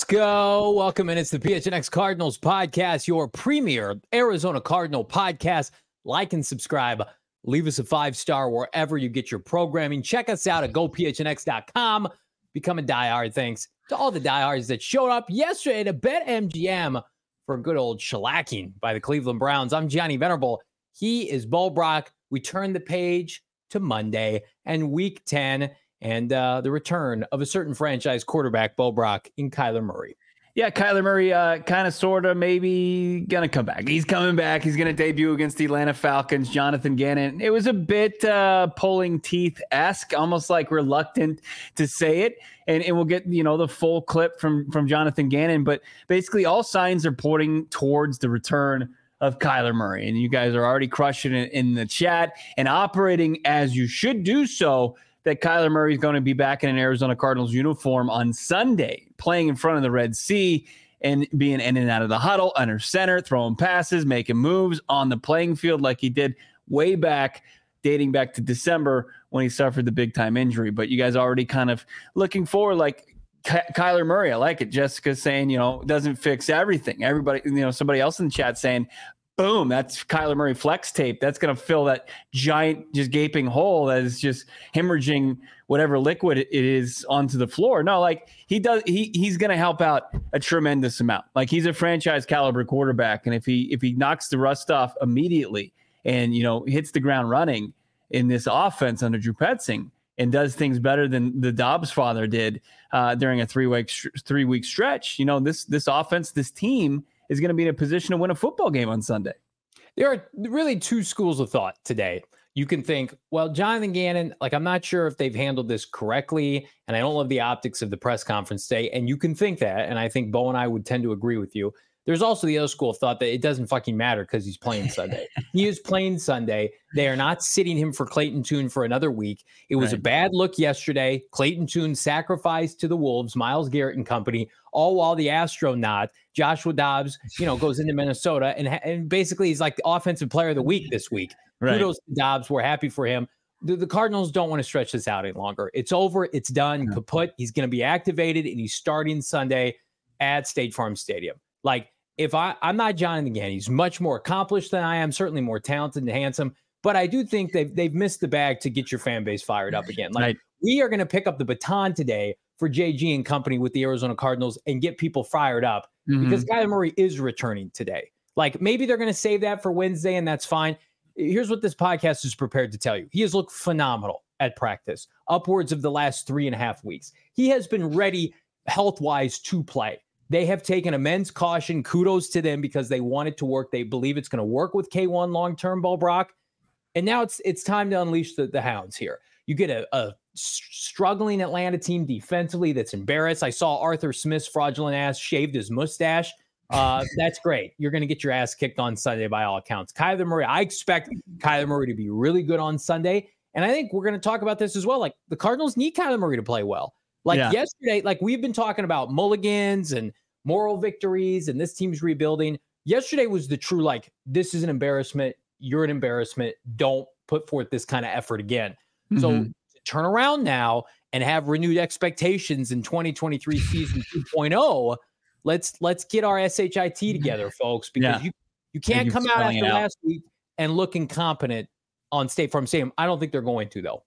Let's go. Welcome in. It's the PHNX Cardinals podcast, your premier Arizona Cardinal podcast. Like and subscribe. Leave us a 5-star wherever you get your programming. Check us out at gophnx.com. Become a diehard. Thanks to all the diehards that showed up yesterday to BetMGM for a good old shellacking by the Cleveland Browns. I'm Gianni Venerable. He is Bo Brock. We turn the page to Monday and week 10 and the return of a certain franchise quarterback, Bo Brock, in Kyler Murray. Yeah, Kyler Murray kind of, sort of, maybe going to come back. He's coming back. He's going to debut against the Atlanta Falcons, Jonathan Gannon. It was a bit pulling teeth-esque, almost like reluctant to say it. And we'll get, the full clip from Jonathan Gannon. But basically all signs are pointing towards the return of Kyler Murray. And you guys are already crushing it in the chat and operating as you should do so, that Kyler Murray is going to be back in an Arizona Cardinals uniform on Sunday, playing in front of the Red Sea and being in and out of the huddle, under center, throwing passes, making moves on the playing field like he did way back, dating back to December when he suffered the big-time injury. But you guys already kind of looking forward, like Kyler Murray. I like it. Jessica saying, doesn't fix everything. Everybody, somebody else in the chat saying, boom, that's Kyler Murray flex tape. That's going to fill that giant, just gaping hole that is just hemorrhaging whatever liquid it is onto the floor. No, like he's going to help out a tremendous amount. Like he's a franchise caliber quarterback. And if he knocks the rust off immediately and, hits the ground running in this offense under Drew Petzing and does things better than the Dobbs father did during a three-week stretch, this offense, this team is going to be in a position to win a football game on Sunday. There are really two schools of thought today. You can think, well, Jonathan Gannon, I'm not sure if they've handled this correctly, and I don't love the optics of the press conference today. And you can think that, and I think Bo and I would tend to agree with you. There's also the other school of thought that it doesn't fucking matter because he's playing Sunday. He is playing Sunday. They are not sitting him for Clayton Tune for another week. It was a bad look yesterday. Clayton Tune sacrificed to the Wolves, Myles Garrett and company, all while the astronaut, Joshua Dobbs, goes into Minnesota and basically he's like the offensive player of the week this week. Right. Kudos to Dobbs. We're happy for him. The Cardinals don't want to stretch this out any longer. It's over. It's done. Kaput. He's going to be activated and he's starting Sunday at State Farm Stadium. If I'm not Jonathan Gannon, he's much more accomplished than I am, certainly more talented and handsome, but I do think they've missed the bag to get your fan base fired up again. We are going to pick up the baton today for JG and company with the Arizona Cardinals and get people fired up because Kyler Murray is returning today. Maybe they're going to save that for Wednesday, and that's fine. Here's what this podcast is prepared to tell you. He has looked phenomenal at practice, upwards of the last 3.5 weeks. He has been ready health-wise to play. They have taken immense caution. Kudos to them because they want it to work. They believe it's going to work with K1 long-term, Bo Brock. And now it's time to unleash the hounds here. You get a struggling Atlanta team defensively that's embarrassed. I saw Arthur Smith's fraudulent ass shaved his mustache. That's great. You're going to get your ass kicked on Sunday by all accounts. Kyler Murray, I expect Kyler Murray to be really good on Sunday. And I think we're going to talk about this as well. The Cardinals need Kyler Murray to play well. Yesterday, we've been talking about mulligans and moral victories and this team's rebuilding. Yesterday was the true, this is an embarrassment. You're an embarrassment. Don't put forth this kind of effort again. Mm-hmm. So to turn around now and have renewed expectations in 2023 season 2.0, let's get our SHIT together, folks, because you can't come out after last week and look incompetent on State Farm Stadium. I don't think they're going to, though.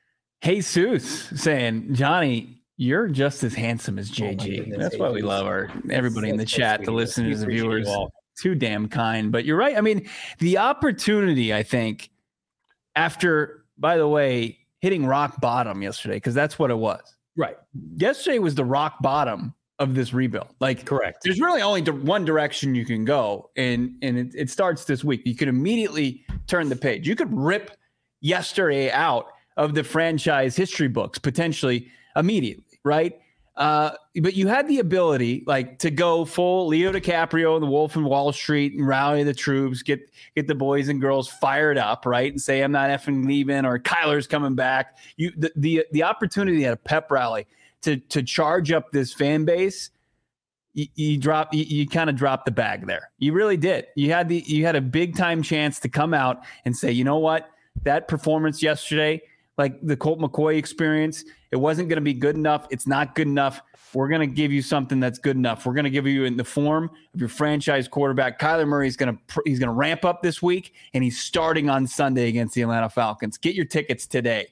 Jesus saying, Johnny, you're just as handsome as JG. That's why we love everybody in the chat, the listeners, the viewers. Too damn kind. But you're right. I mean, the opportunity, I think, after, by the way, hitting rock bottom yesterday, because that's what it was. Right. Yesterday was the rock bottom of this rebuild. Correct. There's really only one direction you can go, and it starts this week. You could immediately turn the page. You could rip yesterday out of the franchise history books, potentially immediately, right? But you had the ability, to go full Leo DiCaprio and the Wolf in Wall Street and rally the troops, get the boys and girls fired up, right? And say, I'm not effing leaving, or Kyler's coming back. The opportunity at a pep rally to charge up this fan base, you kind of dropped the bag there. You really did. You had a big time chance to come out and say, you know what? That performance yesterday like the Colt McCoy experience. It wasn't going to be good enough. It's not good enough. We're going to give you something that's good enough. We're going to give you in the form of your franchise quarterback. Kyler Murray is going to ramp up this week, and he's starting on Sunday against the Atlanta Falcons. Get your tickets today.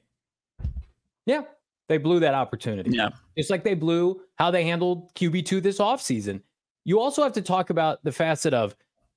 Yeah, they blew that opportunity. Yeah. Just like they blew how they handled QB2 this offseason. You also have to talk about the facet of,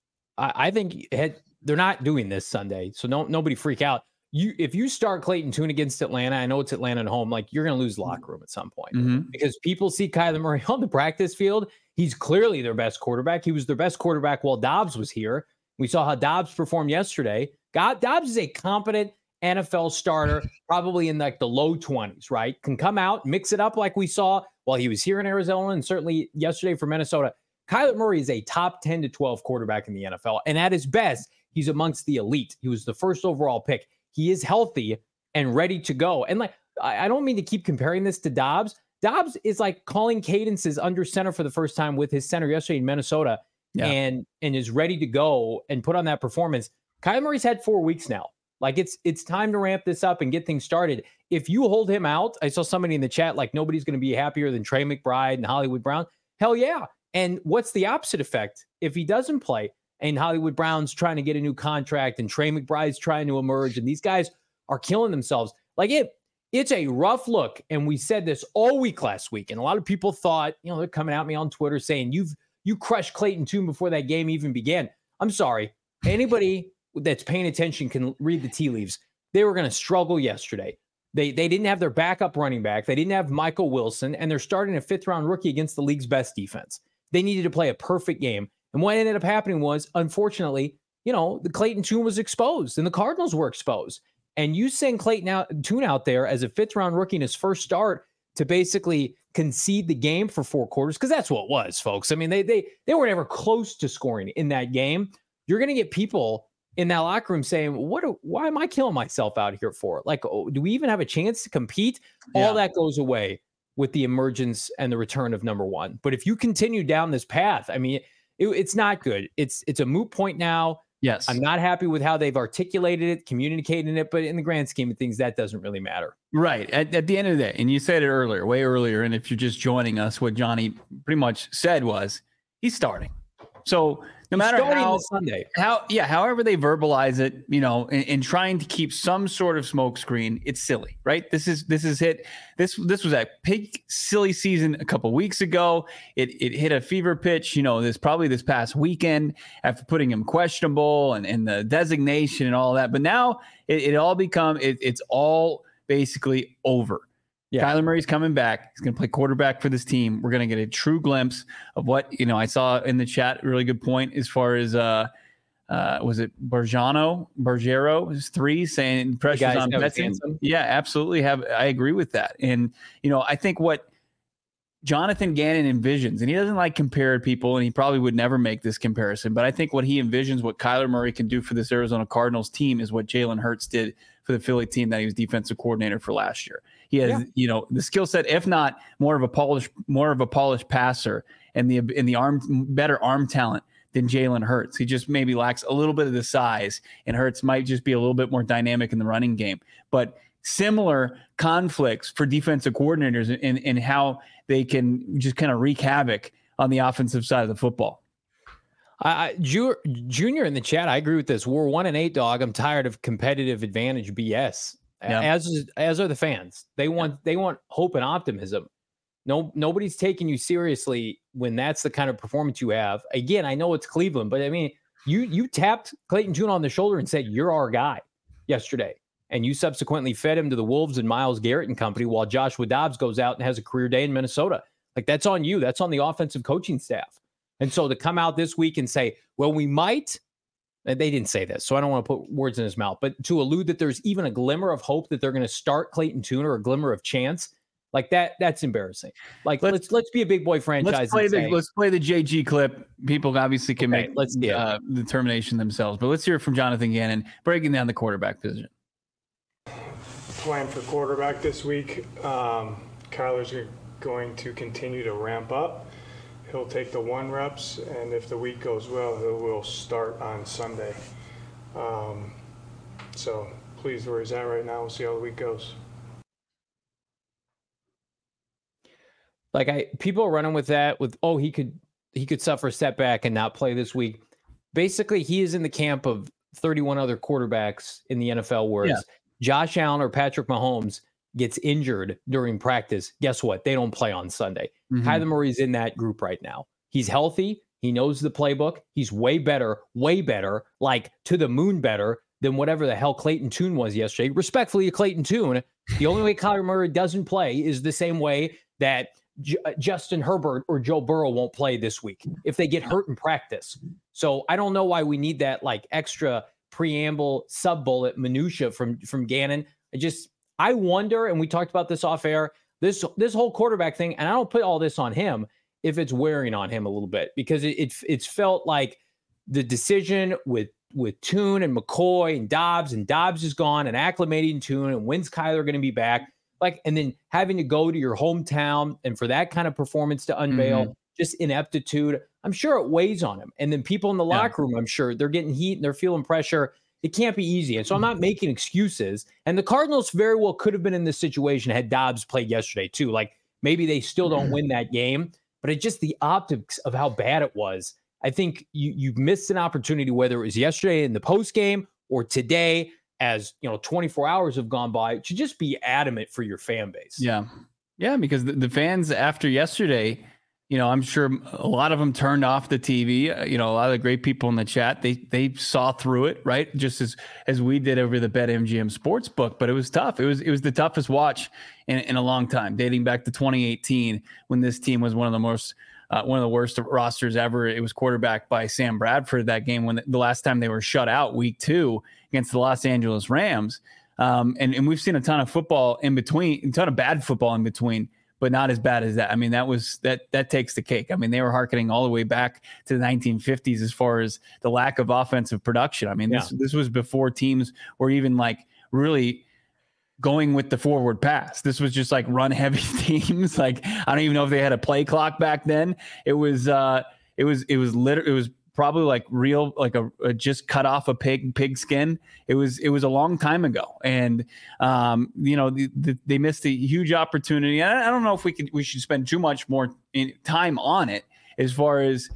I think they're not doing this Sunday, so nobody freak out. If you start Clayton Tune against Atlanta, I know it's Atlanta at home, like you're going to lose the locker room at some point because people see Kyler Murray on the practice field. He's clearly their best quarterback. He was their best quarterback while Dobbs was here. We saw how Dobbs performed yesterday. Dobbs is a competent NFL starter, probably in like the low 20s, right? Can come out, mix it up like we saw while he was here in Arizona and certainly yesterday for Minnesota. Kyler Murray is a top 10 to 12 quarterback in the NFL. And at his best, he's amongst the elite. He was the first overall pick. He is healthy and ready to go. And like, I don't mean to keep comparing this to Dobbs. Dobbs is like calling cadences under center for the first time with his center yesterday in Minnesota and is ready to go and put on that performance. Kyler Murray's had 4 weeks now. Like it's time to ramp this up and get things started. If you hold him out, I saw somebody in the chat, like nobody's going to be happier than Trey McBride and Hollywood Brown. Hell yeah. And what's the opposite effect if he doesn't play? And Hollywood Brown's trying to get a new contract and Trey McBride's trying to emerge and these guys are killing themselves. Like it's a rough look. And we said this all week last week. And a lot of people thought, they're coming at me on Twitter saying you crushed Clayton Tune before that game even began. I'm sorry. Anybody that's paying attention can read the tea leaves. They were going to struggle yesterday. They didn't have their backup running back. They didn't have Michael Wilson, and they're starting a 5th-round rookie against the league's best defense. They needed to play a perfect game. And what ended up happening was, unfortunately, the Clayton Tune was exposed and the Cardinals were exposed. And you send Tune out there as a 5th-round rookie in his first start to basically concede the game for 4 quarters, because that's what it was, folks. I mean, they were never close to scoring in that game. You're going to get people in that locker room saying, why am I killing myself out here for? Like, do we even have a chance to compete? Yeah. All that goes away with the emergence and the return of number one. But if you continue down this path, I mean, it's not good. It's a moot point now. Yes. I'm not happy with how they've articulated it, communicated it, but in the grand scheme of things, that doesn't really matter. Right. At the end of the day, and you said it earlier, way earlier, and if you're just joining us, what Johnny pretty much said was he's starting. So no matter however they verbalize it, in trying to keep some sort of smokescreen, it's silly, right? This was a peak silly season a couple weeks ago. It hit a fever pitch, this past weekend after putting him questionable and the designation and all that. But now it's all basically over. Yeah. Kyler Murray's coming back. He's going to play quarterback for this team. We're going to get a true glimpse of what, I saw in the chat, a really good point as far as, was it Bergero is 3 saying pressures on Betson. Yeah, absolutely. I agree with that. And, I think what Jonathan Gannon envisions, and he doesn't like compare people, and he probably would never make this comparison, but I think what he envisions, what Kyler Murray can do for this Arizona Cardinals team is what Jalen Hurts did for the Philly team that he was defensive coordinator for last year. He has, the skill set, if not more of a polished passer and the better arm talent than Jalen Hurts. He just maybe lacks a little bit of the size, and Hurts might just be a little bit more dynamic in the running game. But similar conflicts for defensive coordinators in how they can just kind of wreak havoc on the offensive side of the football. Junior in the chat, I agree with this. We're 1-8, dog. I'm tired of competitive advantage BS. Yeah. As are the fans. They want hope and optimism. Nobody's taking you seriously when that's the kind of performance you have. Again, I know it's Cleveland, but I mean, you tapped Clayton Tune on the shoulder and said, "You're our guy," yesterday. And you subsequently fed him to the Wolves and Myles Garrett and company while Joshua Dobbs goes out and has a career day in Minnesota. Like, that's on you. That's on the offensive coaching staff. And so to come out this week and say, well, we might, they didn't say this, so I don't want to put words in his mouth, but to allude that there's even a glimmer of hope that they're going to start Clayton Tune or a glimmer of chance, like that's embarrassing. Like, let's be a big boy franchise. Let's play the JG clip. People obviously can make the determination themselves, but let's hear it from Jonathan Gannon breaking down the quarterback position. Plan for quarterback this week. Kyler's going to continue to ramp up. He'll take the 1 reps, and if the week goes well, he will start on Sunday. So pleased where he's at right now. We'll see how the week goes. Like people are running with that he could suffer a setback and not play this week. Basically, he is in the camp of 31 other quarterbacks in the NFL where Josh Allen or Patrick Mahomes gets injured during practice. Guess what? They don't play on Sunday. Kyler Murray's in that group right now. He's healthy. He knows the playbook. He's way better, like to the moon better than whatever the hell Clayton Tune was yesterday. Respectfully to Clayton Tune, the only way Kyler Murray doesn't play is the same way that Justin Herbert or Joe Burrow won't play this week if they get hurt in practice. So I don't know why we need that like extra preamble sub-bullet minutia from Gannon. I wonder, and we talked about this off air, this whole quarterback thing, and I don't put all this on him if it's wearing on him a little bit, because it's felt like the decision with Tune and McCoy and Dobbs is gone, and acclimating Tune, and when's Kyler going to be back? Like, and then having to go to your hometown and for that kind of performance to unveil just ineptitude, I'm sure it weighs on him. And then people in the locker room, I'm sure they're getting heat and they're feeling pressure. It can't be easy. And so I'm not making excuses. And the Cardinals very well could have been in this situation had Dobbs played yesterday too. Like maybe they still don't win that game, but it's just the optics of how bad it was. I think you've missed an opportunity, whether it was yesterday in the post game or today, as 24 hours have gone by, to just be adamant for your fan base. Yeah, because the fans after yesterday, I'm sure a lot of them turned off the TV. A lot of the great people in the chat, they saw through it, right? Just as we did over the BetMGM Sportsbook, but it was tough. It was the toughest watch in a long time, dating back to 2018 when this team was one of the worst rosters ever. It was quarterbacked by Sam Bradford that game when the last time they were shut out week 2 against the Los Angeles Rams. And we've seen a ton of football in between, a ton of bad football in between, but not as bad as that. I mean, that takes the cake. I mean, they were hearkening all the way back to the 1950s as far as the lack of offensive production. I mean, this was before teams were even like really going with the forward pass. This was just like run heavy teams. Like, I don't even know if they had a play clock back then. It was probably like real, like a just cut off a pig skin. It was a long time ago. And, they missed a huge opportunity. I don't know if we should spend too much more time on it as far as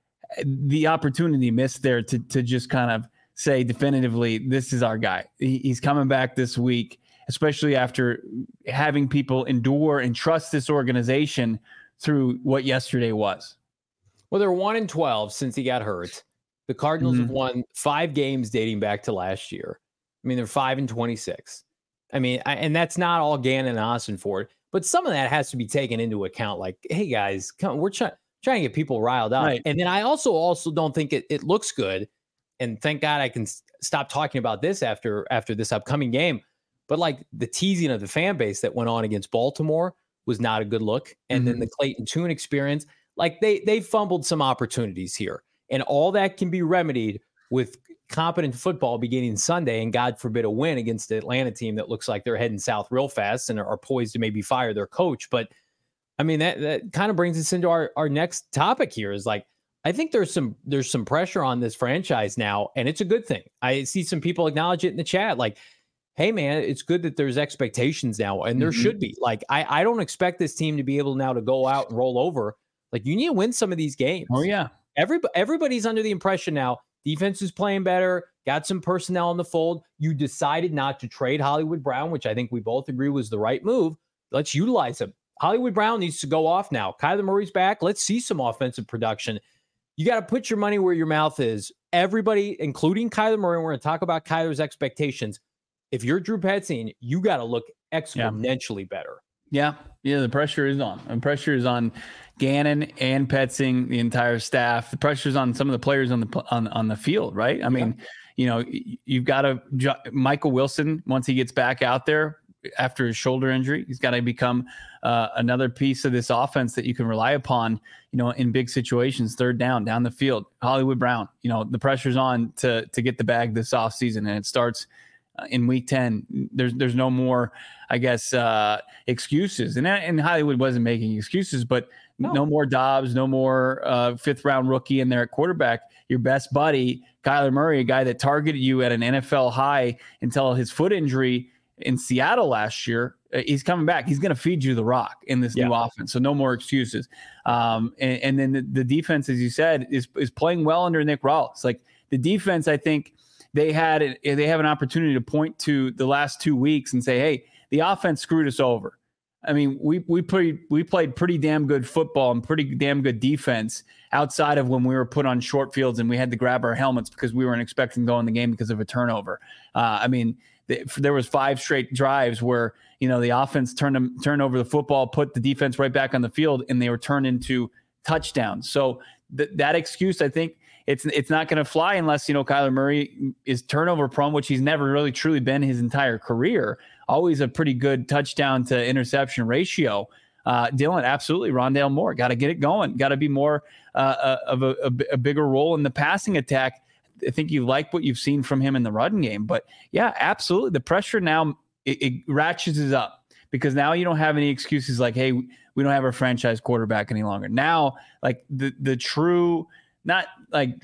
the opportunity missed there to just kind of say definitively, this is our guy. He's coming back this week, especially after having people endure and trust this organization through what yesterday was. Well, they're 1-12 since he got hurt. The Cardinals have won 5 games dating back to last year. I mean, they're 5-26. I mean, and that's not all Gannon and Ossenfort, but some of that has to be taken into account. Like, hey guys, come, we're trying to get people riled up. Right. And then I also don't think it looks good. And thank God I can stop talking about this after this upcoming game. But like the teasing of the fan base that went on against Baltimore was not a good look. And then the Clayton Tune experience, like they fumbled some opportunities here, and all that can be remedied with competent football beginning Sunday, and God forbid a win against the Atlanta team that looks like they're heading south real fast and are poised to maybe fire their coach. But I mean, that kind of brings us into our next topic here is like, I think there's some pressure on this franchise now, and it's a good thing. I see some people acknowledge it in the chat. Like, hey man, it's good that there's expectations now, and there should be. Like, I don't expect this team to be able now to go out and roll over. Like, you need to win some of these games. Oh yeah. Everybody's under the impression now defense is playing better, got some personnel in the fold. You decided not to trade Hollywood Brown, which I think we both agree was the right move. Let's utilize him. Hollywood Brown needs to go off now. Kyler Murray's back. Let's see some offensive production. You got to put your money where your mouth is. Everybody, including Kyler Murray, we're going to talk about Kyler's expectations. If you're Drew Petzing, you got to look exponentially better. Yeah, the pressure is on. And pressure is on Gannon and Petzing, the entire staff. The pressure is on some of the players on the field, right? I mean, you've got Michael Wilson, once he gets back out there after his shoulder injury, he's got to become another piece of this offense that you can rely upon, in big situations, third down the field. Hollywood Brown, the pressure's on to get the bag this offseason, and it starts in week 10. There's no more, I guess, excuses. And Hollywood wasn't making excuses, but no more Dobbs, no more 5th round rookie in there at quarterback. your best buddy, Kyler Murray, a guy that targeted you at an NFL high until his foot injury in Seattle last year. He's coming back. He's going to feed you the rock in this new offense. So no more excuses. And then the defense, as you said, is playing well under Nick Rawls. Like the defense, I think they have an opportunity to point to the last 2 weeks and say, hey, the offense screwed us over. I mean, we played pretty damn good football and pretty damn good defense outside of when we were put on short fields and we had to grab our helmets because we weren't expecting to go in the game because of a turnover. I mean, there was 5 straight drives where, the offense turned over the football, put the defense right back on the field, and they were turned into touchdowns. So that excuse, I think, it's not going to fly unless, Kyler Murray is turnover prone, which he's never really truly been his entire career. Always a pretty good touchdown to interception ratio. Dylan, absolutely. Rondale Moore, got to get it going. Got to be more of a bigger role in the passing attack. I think you like what you've seen from him in the run game. But, yeah, absolutely. The pressure now, it ratchets up because now you don't have any excuses like, hey, we don't have our franchise quarterback any longer. Now, like the true – not like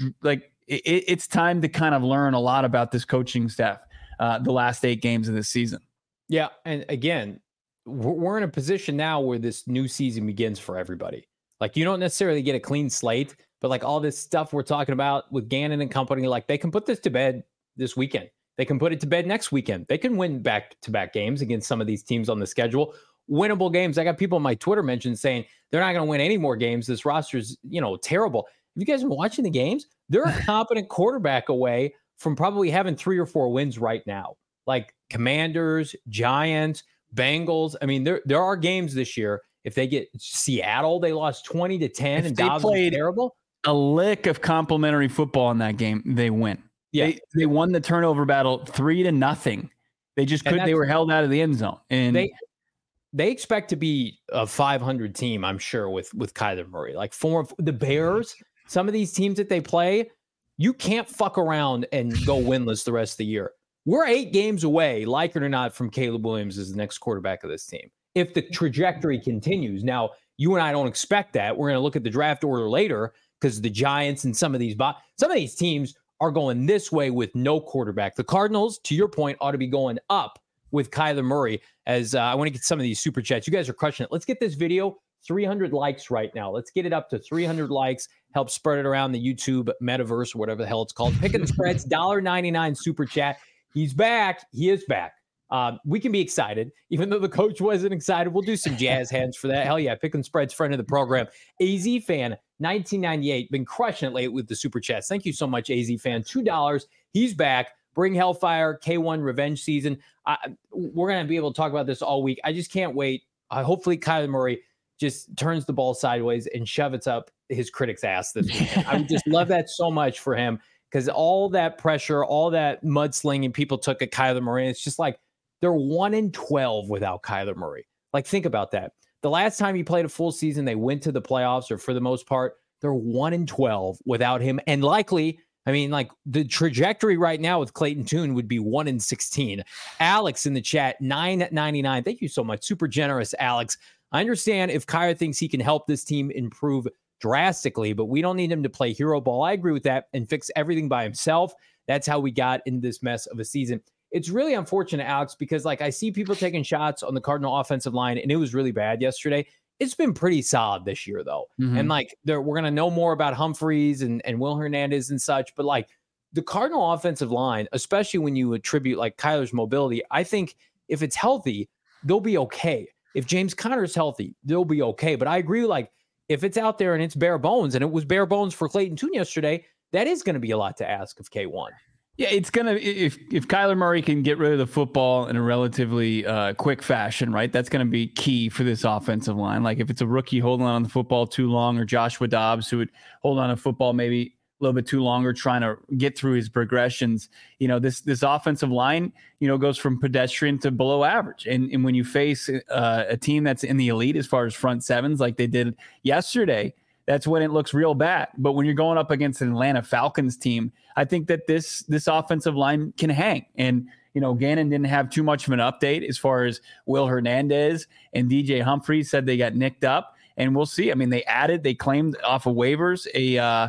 it's time to kind of learn a lot about this coaching staff the last 8 games of this season. Yeah. And again, we're in a position now where this new season begins for everybody. Like you don't necessarily get a clean slate, but like all this stuff we're talking about with Gannon and company, like they can put this to bed this weekend. They can put it to bed next weekend. They can win back-to-back games against some of these teams on the schedule. Winnable games. I got people on my Twitter mention saying they're not going to win any more games. This roster's, terrible. If you guys are watching the games, they're a competent quarterback away from probably having 3 or 4 wins right now. Like Commanders, Giants, Bengals. I mean, there are games this year. If they get Seattle, they lost 20-10 and Dobbs was terrible. A lick of complimentary football in that game, they win. Yeah, they won the turnover battle 3-0. They just couldn't. They were held out of the end zone, and they expect to be a 500 team. I'm sure with Kyler Murray. Like for the Bears, some of these teams that they play, you can't fuck around and go winless the rest of the year. We're 8 games away, like it or not, from Caleb Williams as the next quarterback of this team. If the trajectory continues, now you and I don't expect that. We're going to look at the draft order later because the Giants and some of these teams are going this way with no quarterback. The Cardinals, to your point, ought to be going up with Kyler Murray. As I want to get some of these super chats. You guys are crushing it. Let's get this video 300 likes right now. Let's get it up to 300 likes. Help spread it around the YouTube metaverse or whatever the hell it's called. Picking the spreads, $1.99 super chat. He's back. He is back. We can be excited, even though the coach wasn't excited. We'll do some jazz hands for that. Hell yeah. Picking spreads, friend of the program. AZ Fan, 1998. Been crushing it late with the super chats. Thank you so much, AZ Fan. $2. He's back. Bring Hellfire, K1 revenge season. We're going to be able to talk about this all week. I just can't wait. Hopefully Kyler Murray just turns the ball sideways and shove it up his critic's ass this weekend. I would just love that so much for him because all that pressure, all that mudslinging people took at Kyler Murray, it's just like they're 1-12 without Kyler Murray. Like, think about that. The last time he played a full season, they went to the playoffs, or for the most part, they're 1-12 without him. And likely, I mean, like the trajectory right now with Clayton Tune would be 1-16. Alex in the chat, $9.99. Thank you so much. Super generous, Alex. I understand if Kyler thinks he can help this team improve drastically, but we don't need him to play hero ball. I agree with that and fix everything by himself. That's how we got in this mess of a season. It's really unfortunate, Alex, because like I see people taking shots on the Cardinal offensive line, and it was really bad yesterday. It's been pretty solid this year, though. Mm-hmm. And like we're going to know more about Humphreys and Will Hernandez and such. But like the Cardinal offensive line, especially when you attribute like Kyler's mobility, I think if it's healthy, they'll be okay. If James Conner's healthy, they'll be okay. But I agree, like if it's out there and it's bare bones, and it was bare bones for Clayton Tune yesterday, that is going to be a lot to ask of K1. Yeah, it's going to, if Kyler Murray can get rid of the football in a relatively quick fashion, right, that's going to be key for this offensive line. Like if it's a rookie holding on to the football too long, or Joshua Dobbs who would hold on to football maybe a little bit too longer trying to get through his progressions, you know, this offensive line, you know, goes from pedestrian to below average. And when you face a team that's in the elite as far as front sevens like they did yesterday, that's when it looks real bad. But when you're going up against an Atlanta Falcons team, I think that this offensive line can hang. And, you know, Gannon didn't have too much of an update as far as Will Hernandez and DJ Humphreys said they got nicked up. And we'll see. I mean, they claimed off of waivers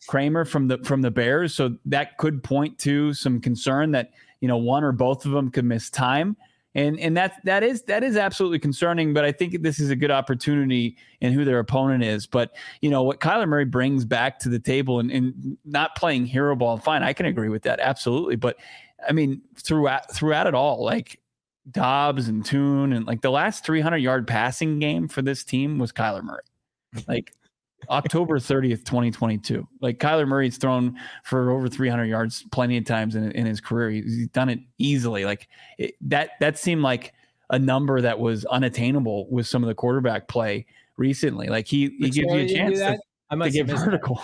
Kramer from the Bears. So that could point to some concern that, one or both of them could miss time. And that is absolutely concerning, but I think this is a good opportunity in who their opponent is. But, what Kyler Murray brings back to the table and not playing hero ball, fine, I can agree with that. Absolutely. But I mean, throughout it all, like Dobbs and Tune and like the last 300-yard passing game for this team was Kyler Murray. Like October 30th, 2022. Like Kyler Murray's thrown for over 300 yards plenty of times in his career. He's done it easily. Like that seemed like a number that was unattainable with some of the quarterback play recently. Like he gives you a chance to get vertical.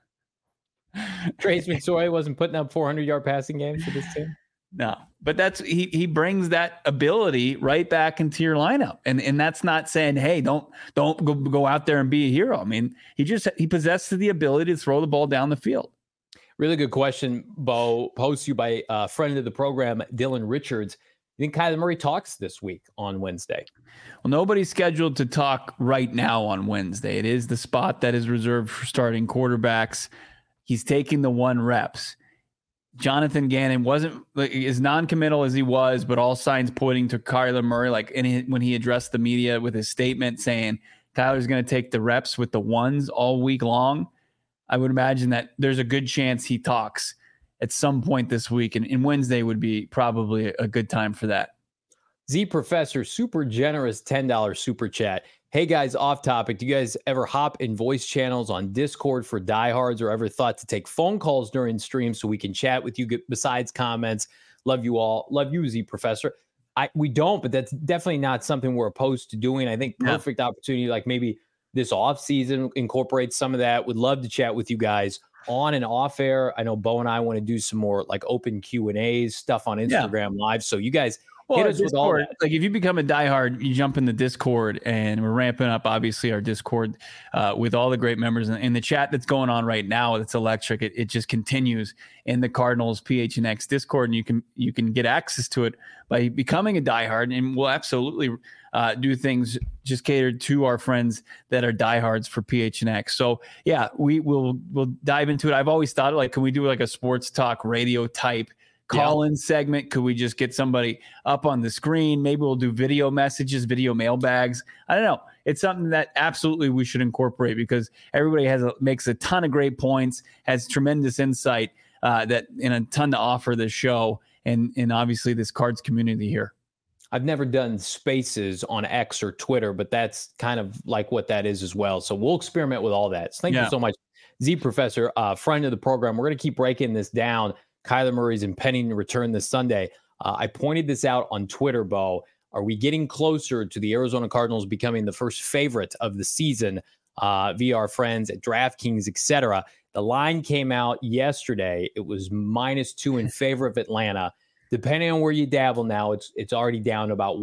Trace McSorley wasn't putting up 400-yard passing games for this team. No, but he brings that ability right back into your lineup. And that's not saying, hey, don't go out there and be a hero. I mean, he possesses the ability to throw the ball down the field. Really good question, Bo, posed to you by a friend of the program, Dylan Richards. You think Kyler Murray talks this week on Wednesday? Well, nobody's scheduled to talk right now on Wednesday. It is the spot that is reserved for starting quarterbacks. He's taking the 1 reps. Jonathan Gannon wasn't as non-committal as he was, but all signs pointing to Kyler Murray. Like when he addressed the media with his statement saying Kyler's going to take the reps with the 1s all week long, I would imagine that there's a good chance he talks at some point this week, and Wednesday would be probably a good time for that. Z Professor, super generous $10 super chat. Hey guys, off topic. Do you guys ever hop in voice channels on Discord for diehards, or ever thought to take phone calls during streams so we can chat with you besides comments? Love you all. Love you, Z Professor. We don't, but that's definitely not something we're opposed to doing. I think perfect opportunity, like maybe this off season, incorporate some of that. Would love to chat with you guys on and off air. I know Bo and I want to do some more like open Q&As stuff on Instagram Live. So you guys hit us with all that. Like if you become a diehard, you jump in the Discord, and we're ramping up obviously our Discord with all the great members and the chat that's going on right now. It's electric. It just continues in the Cardinals PHNX Discord, and you can get access to it by becoming a diehard, and we'll absolutely do things just catered to our friends that are diehards for PHNX. So yeah, we'll dive into it. I've always thought, like, can we do like a sports talk radio type call-in segment? Could we just get somebody up on the screen? Maybe we'll do video messages, video mailbags. I don't know. It's something that absolutely we should incorporate, because everybody makes a ton of great points, has tremendous insight and a ton to offer this show and obviously this Cards community here. I've never done spaces on X or Twitter, but that's kind of like what that is as well. So we'll experiment with all that. So thank you so much, Z Professor, friend of the program. We're going to keep breaking this down. Kyler Murray's impending return this Sunday. I pointed this out on Twitter, Bo. Are we getting closer to the Arizona Cardinals becoming the first favorite of the season via our friends at DraftKings, etc.? The line came out yesterday. It was -2 in favor of Atlanta. Depending on where you dabble now, it's already down to about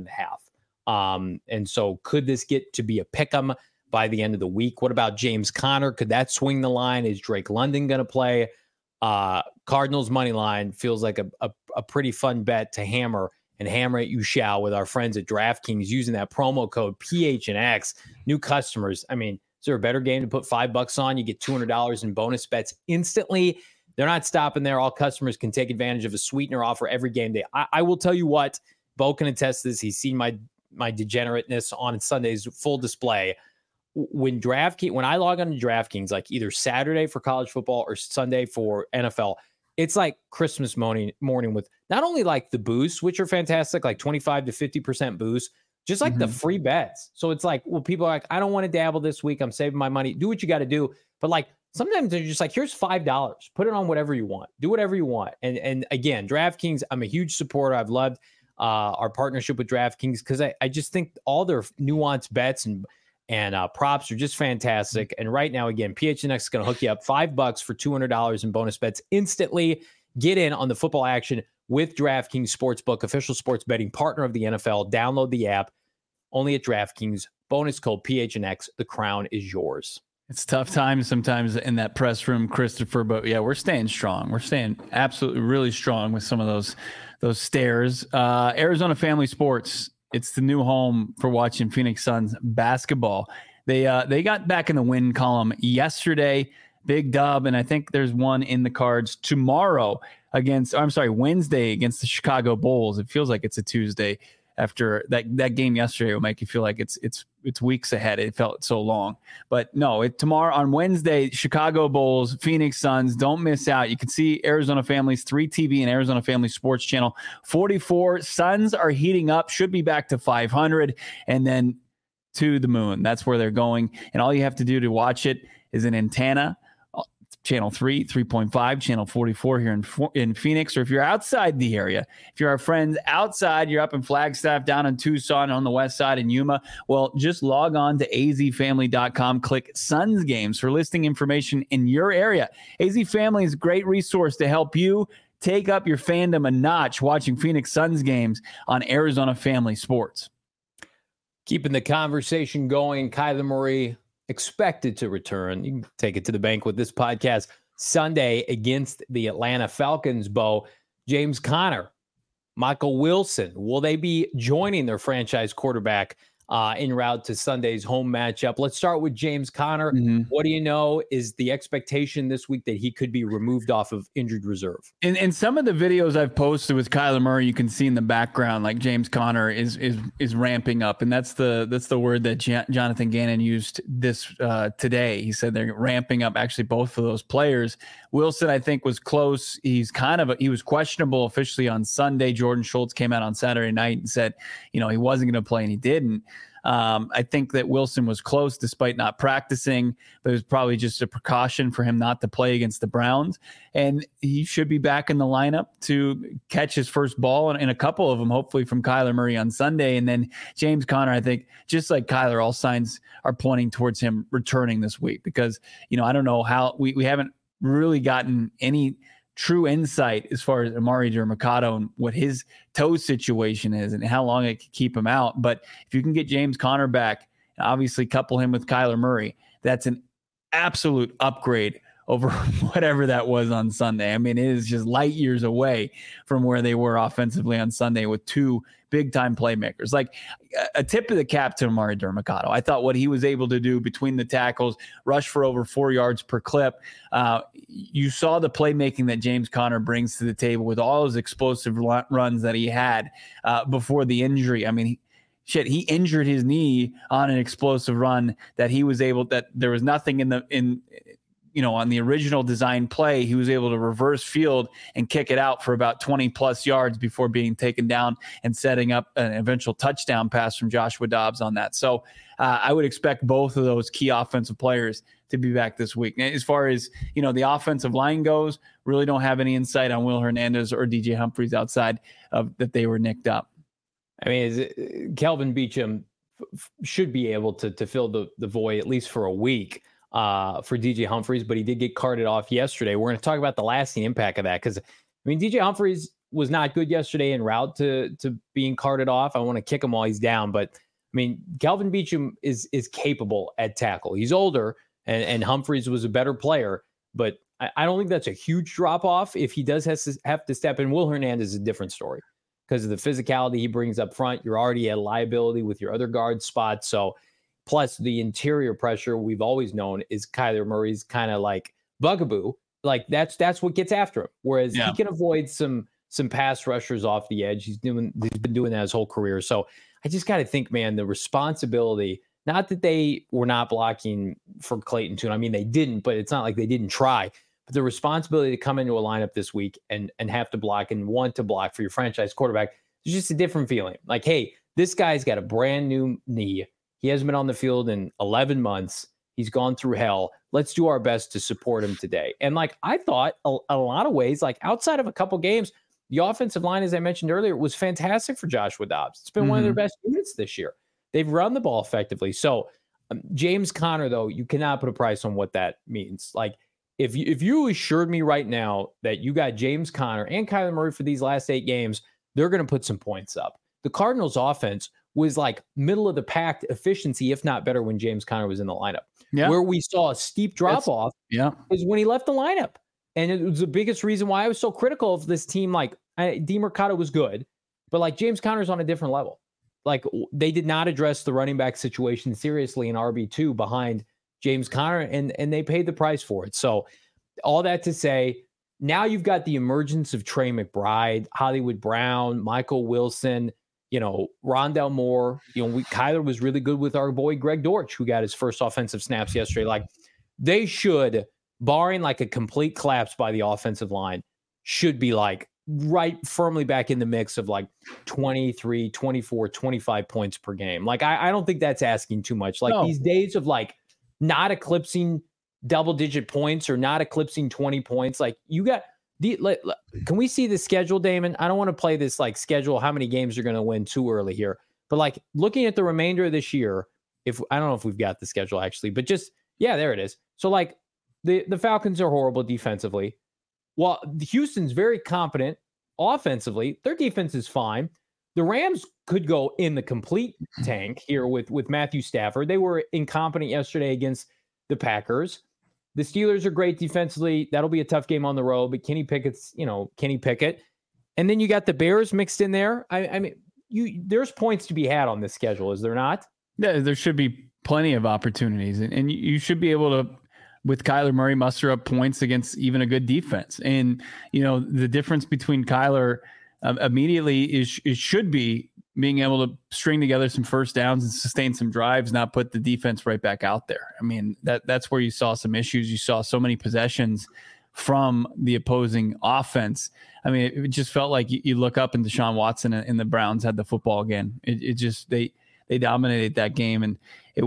1.5. And so could this get to be a pick'em by the end of the week? What about James Conner? Could that swing the line? Is Drake London going to play? Cardinals money line feels like a pretty fun bet to hammer, and hammer it you shall with our friends at DraftKings using that promo code PHNX. New customers, I mean, is there a better game to put $5 on? You get $200 in bonus bets instantly. They're not stopping there. All customers can take advantage of a sweetener offer every game day. I will tell you what, Bo can attest this. He's seen my degenerateness on Sunday's full display. When I log on to DraftKings, like either Saturday for college football or Sunday for NFL, it's like Christmas morning with not only like the boosts, which are fantastic, like 25 to 50% boost, just like the free bets. So it's like, well, people are like, I don't want to dabble this week. I'm saving my money. Do what you got to do. But like sometimes they're just like, here's $5. Put it on whatever you want. Do whatever you want. And again, DraftKings, I'm a huge supporter. I've loved our partnership with DraftKings because I just think all their nuanced bets and props are just fantastic. And right now, again, PHNX is going to hook you up $5 for $200 in bonus bets instantly. Get in on the football action with DraftKings Sportsbook, official sports betting partner of the NFL. Download the app only at DraftKings. Bonus code PHNX. The crown is yours. It's tough times sometimes in that press room, Christopher, but yeah, we're staying strong. We're staying absolutely really strong with some of those stares. Arizona Family Sports. It's the new home for watching Phoenix Suns basketball. They got back in the win column yesterday. big dub. And I think there's one in the cards tomorrow Wednesday against the Chicago Bulls. It feels like it's a Tuesday after that game yesterday. Will make you feel like it's weeks ahead. It felt so long, but no, tomorrow on Wednesday, Chicago Bulls, Phoenix Suns. Don't miss out. You can see Arizona Family's 3TV and Arizona Family Sports Channel 44. Suns are heating up, should be back to 500 and then to the moon. That's where they're going. And all you have to do to watch it is an antenna, channel 3, 3.5, channel 44 here in Phoenix. Or if you're outside the area, if you're our friends outside, you're up in Flagstaff, down in Tucson, on the west side in Yuma, well, just log on to azfamily.com, click Suns Games for listing information in your area. AZ Family is a great resource to help you take up your fandom a notch watching Phoenix Suns games on Arizona Family Sports. Keeping the conversation going, Kyler Murray expected to return. You can take it to the bank with this podcast Sunday against the Atlanta Falcons. Bo, James Conner, Michael Wilson, will they be joining their franchise quarterback en route to Sunday's home matchup? Let's start with James Conner. Mm-hmm. What do you know? Is the expectation this week that he could be removed off of injured reserve? In some of the videos I've posted with Kyler Murray, you can see in the background like James Conner is ramping up, and that's the word that Jonathan Gannon used this today. He said they're ramping up. Actually, both of those players. Wilson, I think, was close. He was questionable officially on Sunday. Jordan Schultz came out on Saturday night and said, he wasn't going to play, and he didn't. I think that Wilson was close despite not practicing, but it was probably just a precaution for him not to play against the Browns. And he should be back in the lineup to catch his first ball and a couple of them, hopefully from Kyler Murray on Sunday. And then James Conner, I think, just like Kyler, all signs are pointing towards him returning this week because, I don't know how we haven't really gotten any true insight as far as Amari Dermacado and what his toe situation is and how long it could keep him out. But if you can get James Conner back and obviously couple him with Kyler Murray, that's an absolute upgrade over whatever that was on Sunday. I mean, it is just light years away from where they were offensively on Sunday with two big-time playmakers. Like a tip of the cap to Amari Dermacado. I thought what he was able to do between the tackles, rush for over 4 yards per clip. You saw the playmaking that James Conner brings to the table with all his explosive runs that he had before the injury. I mean, he injured his knee on an explosive run that he was able, that there was nothing on the original design play. He was able to reverse field and kick it out for about 20 plus yards before being taken down and setting up an eventual touchdown pass from Joshua Dobbs on that. So I would expect both of those key offensive players to be back this week. As far as, the offensive line goes, really don't have any insight on Will Hernandez or DJ Humphries outside of that they were nicked up. I mean, Kelvin Beachum should be able to fill the void at least for a week for DJ Humphries, but he did get carted off yesterday. We're going to talk about the lasting impact of that because, DJ Humphries was not good yesterday en route to being carted off. I want to kick him while he's down, but Kelvin Beachum is capable at tackle. He's older, and Humphries was a better player, but I don't think that's a huge drop off. If he does have to step in, Will Hernandez is a different story because of the physicality he brings up front. You're already at liability with your other guard spots, so. Plus the interior pressure we've always known is Kyler Murray's kind of like bugaboo. Like that's what gets after him. Whereas he can avoid some pass rushers off the edge. He's been doing that his whole career. So I just got to think, man, the responsibility, not that they were not blocking for Clayton Tune. They didn't, but it's not like they didn't try. But the responsibility to come into a lineup this week and have to block and want to block for your franchise quarterback is just a different feeling. Like, hey, this guy's got a brand new knee. He hasn't been on the field in 11 months. He's gone through hell. Let's do our best to support him today. And I thought a lot of ways, outside of a couple games, the offensive line, as I mentioned earlier, was fantastic for Joshua Dobbs. It's been one of their best units this year. They've run the ball effectively. So James Conner, though, you cannot put a price on what that means. If you assured me right now that you got James Conner and Kyler Murray for these last 8 games, they're going to put some points up. The Cardinals offense was middle of the pack efficiency, if not better, when James Conner was in the lineup. Yeah. Where we saw a steep drop off is when he left the lineup. And it was the biggest reason why I was so critical of this team. DeMercado was good, but James Conner's on a different level. They did not address the running back situation seriously in RB2 behind James Conner, and they paid the price for it. So all that to say, now you've got the emergence of Trey McBride, Hollywood Brown, Michael Wilson, Rondell Moore. Kyler was really good with our boy Greg Dortch, who got his first offensive snaps yesterday. Like, they should, barring like a complete collapse by the offensive line, should be like right firmly back in the mix of like 23, 24, 25 points per game. Like, I don't think that's asking too much. Like, these days of like not eclipsing double-digit points or not eclipsing 20 points, like, you got can we see the schedule, Damon? I don't want to play this like schedule, how many games you're going to win too early here. But like, looking at the remainder of this year, I don't know if we've got the schedule actually, but just, yeah, there it is. So like the Falcons are horrible defensively. Well, Houston's very competent offensively. Their defense is fine. The Rams could go in the complete tank here with Matthew Stafford. They were incompetent yesterday against the Packers. The Steelers are great defensively. That'll be a tough game on the road, but Kenny Pickett's, Kenny Pickett. And then you got the Bears mixed in there. I mean, there's points to be had on this schedule, is there not? Yeah, there should be plenty of opportunities. And you should be able to, with Kyler Murray, muster up points against even a good defense. And, the difference between Kyler immediately should be being able to string together some first downs and sustain some drives, not put the defense right back out there. I mean, that's where you saw some issues. You saw so many possessions from the opposing offense. I mean, it just felt like you look up and Deshaun Watson and the Browns had the football again. They dominated that game, and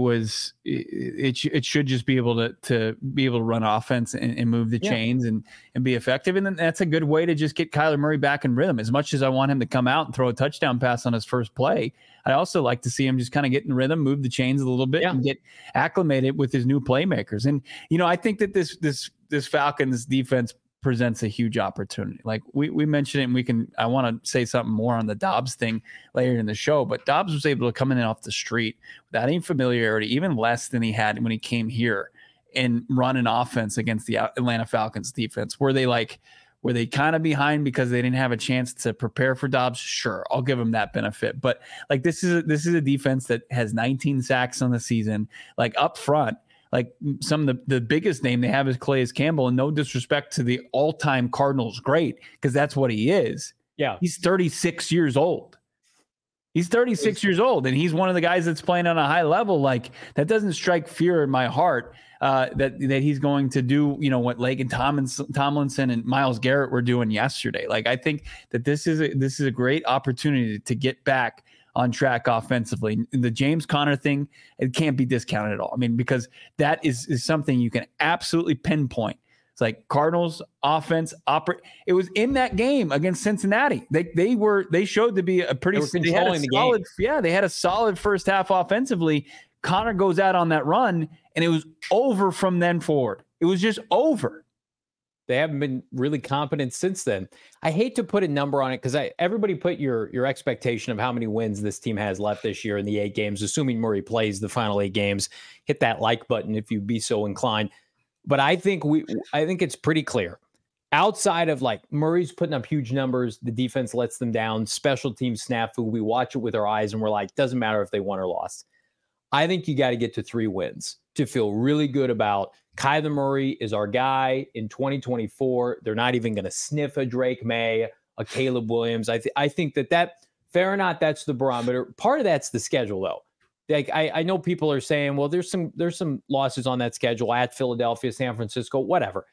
it should just be able to be able to run offense and move the chains and be effective. And then that's a good way to just get Kyler Murray back in rhythm. As much as I want him to come out and throw a touchdown pass on his first play, I also like to see him just kind of get in rhythm, move the chains a little bit and get acclimated with his new playmakers. And, I think that this Falcons defense presents a huge opportunity. Like we mentioned it, and I want to say something more on the Dobbs thing later in the show, but Dobbs was able to come in off the street without any familiarity, even less than he had when he came here, and run an offense against the Atlanta Falcons defense. Were they kind of behind because they didn't have a chance to prepare for Dobbs? Sure, I'll give them that benefit. But like, this is a defense that has 19 sacks on the season. Like, up front, like, some of the biggest name they have is Calais Campbell, and no disrespect to the all-time Cardinals great, because that's what he is. Yeah. He's 36 years old. He's 36 years old, and he's one of the guys that's playing on a high level. Like, that doesn't strike fear in my heart that he's going to do, what Laken Tomlinson and Myles Garrett were doing yesterday. Like, I think that this is a great opportunity to get back on track offensively. The James Conner thing, it can't be discounted at all. I mean, because that is something you can absolutely pinpoint. It's like Cardinals offense it was in that game against Cincinnati. They showed to be a pretty solid game. Yeah, they had a solid first half offensively. Conner goes out on that run, and it was over from then forward. It was just over. They haven't been really competent since then. I hate to put a number on it, because everybody put your expectation of how many wins this team has left this year in the 8 games, assuming Murray plays the final 8 games. Hit that like button if you'd be so inclined. But I think it's pretty clear. Outside of like Murray's putting up huge numbers, the defense lets them down, special team snafu, we watch it with our eyes and we're like, doesn't matter if they won or lost. I think you got to get to 3 wins to feel really good about Kyler Murray is our guy in 2024. They're not even going to sniff a Drake May, a Caleb Williams. I think that fair or not, that's the barometer. Part of that's the schedule, though. Like, I know people are saying, well, there's some losses on that schedule at Philadelphia, San Francisco, whatever.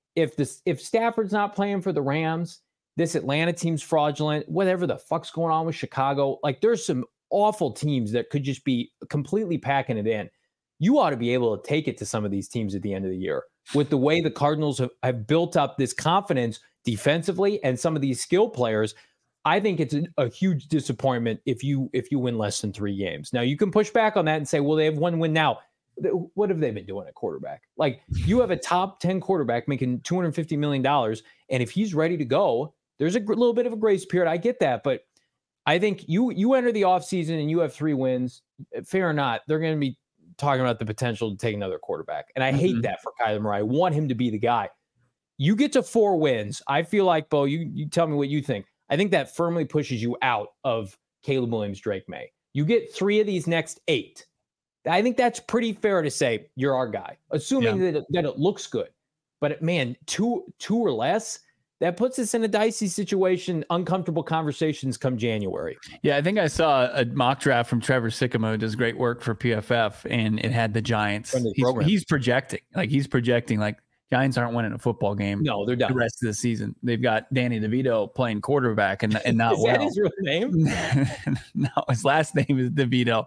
If Stafford's not playing for the Rams, this Atlanta team's fraudulent, whatever the fuck's going on with Chicago, like, there's some awful teams that could just be completely packing it in. You ought to be able to take it to some of these teams at the end of the year with the way the Cardinals have built up this confidence defensively and some of these skill players. I think it's a huge disappointment if you win less than 3 games. Now, you can push back on that and say, well, they have 1 win now. What have they been doing at quarterback? Like, you have a top 10 quarterback making $250 million. And if he's ready to go, there's a little bit of a grace period. I get that. But I think you enter the offseason and you have 3 wins, fair or not, they're going to be talking about the potential to take another quarterback. And I hate that for Kyler Murray. I want him to be the guy. You get to 4 wins. I feel like, Bo, you tell me what you think. I think that firmly pushes you out of Caleb Williams, Drake May. You get 3 of these next 8. I think that's pretty fair to say you're our guy, assuming that it looks good. But man, two or less, that puts us in a dicey situation, uncomfortable conversations come January. Yeah, I think I saw a mock draft from Trevor Sycamore, who does great work for PFF, and it had the Giants. He's projecting like Giants aren't winning a football game. No, they're done the rest of the season. They've got Danny DeVito playing quarterback and not is that his real name? No, his last name is DeVito.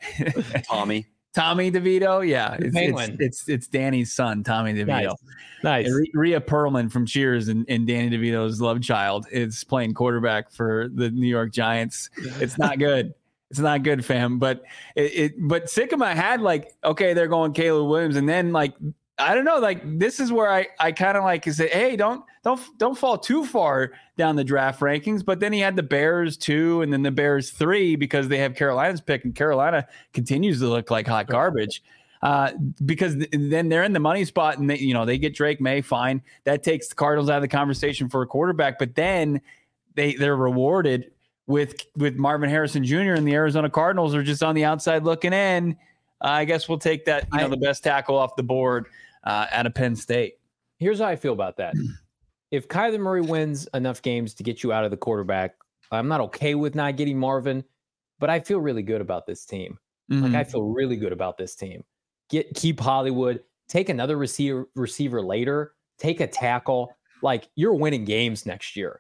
Tommy DeVito, yeah, it's Danny's son, Tommy DeVito. Nice. Rhea Perlman from Cheers and Danny DeVito's love child is playing quarterback for the New York Giants. It's not good. It's not good, fam. But but Sycamore had they're going Caleb Williams, and then I don't know, this is where I kind of say, hey, don't fall too far down the draft rankings. But then he had the Bears 2 and then the Bears 3 because they have Carolina's pick, and Carolina continues to look like hot garbage because then they're in the money spot and they get Drake May, fine. That takes the Cardinals out of the conversation for a quarterback, but then they're rewarded with Marvin Harrison Jr. and the Arizona Cardinals are just on the outside looking in. I guess we'll take that, the best tackle off the board out of Penn State. Here's how I feel about that. If Kyler Murray wins enough games to get you out of the quarterback, I'm not okay with not getting Marvin, but I feel really good about this team. Mm-hmm. I feel really good about this team. Keep Hollywood, take another receiver later, take a tackle. You're winning games next year.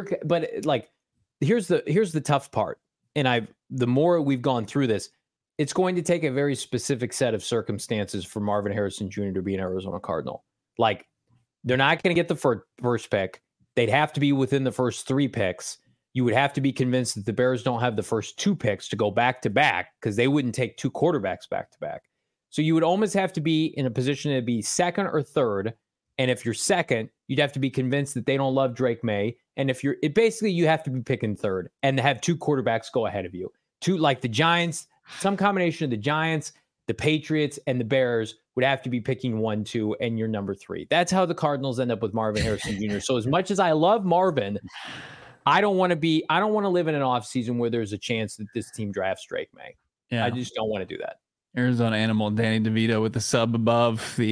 Here's the tough part. And the more we've gone through this, it's going to take a very specific set of circumstances for Marvin Harrison Jr. to be an Arizona Cardinal. They're not going to get the first pick. They'd have to be within the first 3 picks. You would have to be convinced that the Bears don't have the first 2 picks to go back to back because they wouldn't take 2 quarterbacks back to back. So you would almost have to be in a position to be second or third. And if you're second, you'd have to be convinced that they don't love Drake May. And if you have to be picking third and have 2 quarterbacks go ahead of you. 2 like the Giants. Some combination of the Giants, the Patriots, and the Bears would have to be picking 1, 2, and you're number 3. That's how the Cardinals end up with Marvin Harrison Jr. So as much as I love Marvin, I don't want to live in an offseason where there's a chance that this team drafts Drake May. Yeah. I just don't want to do that. Arizona Animal, Danny DeVito with the sub above the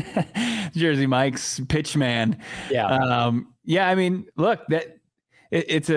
Jersey Mike's pitch man. Yeah. I mean, look, that it's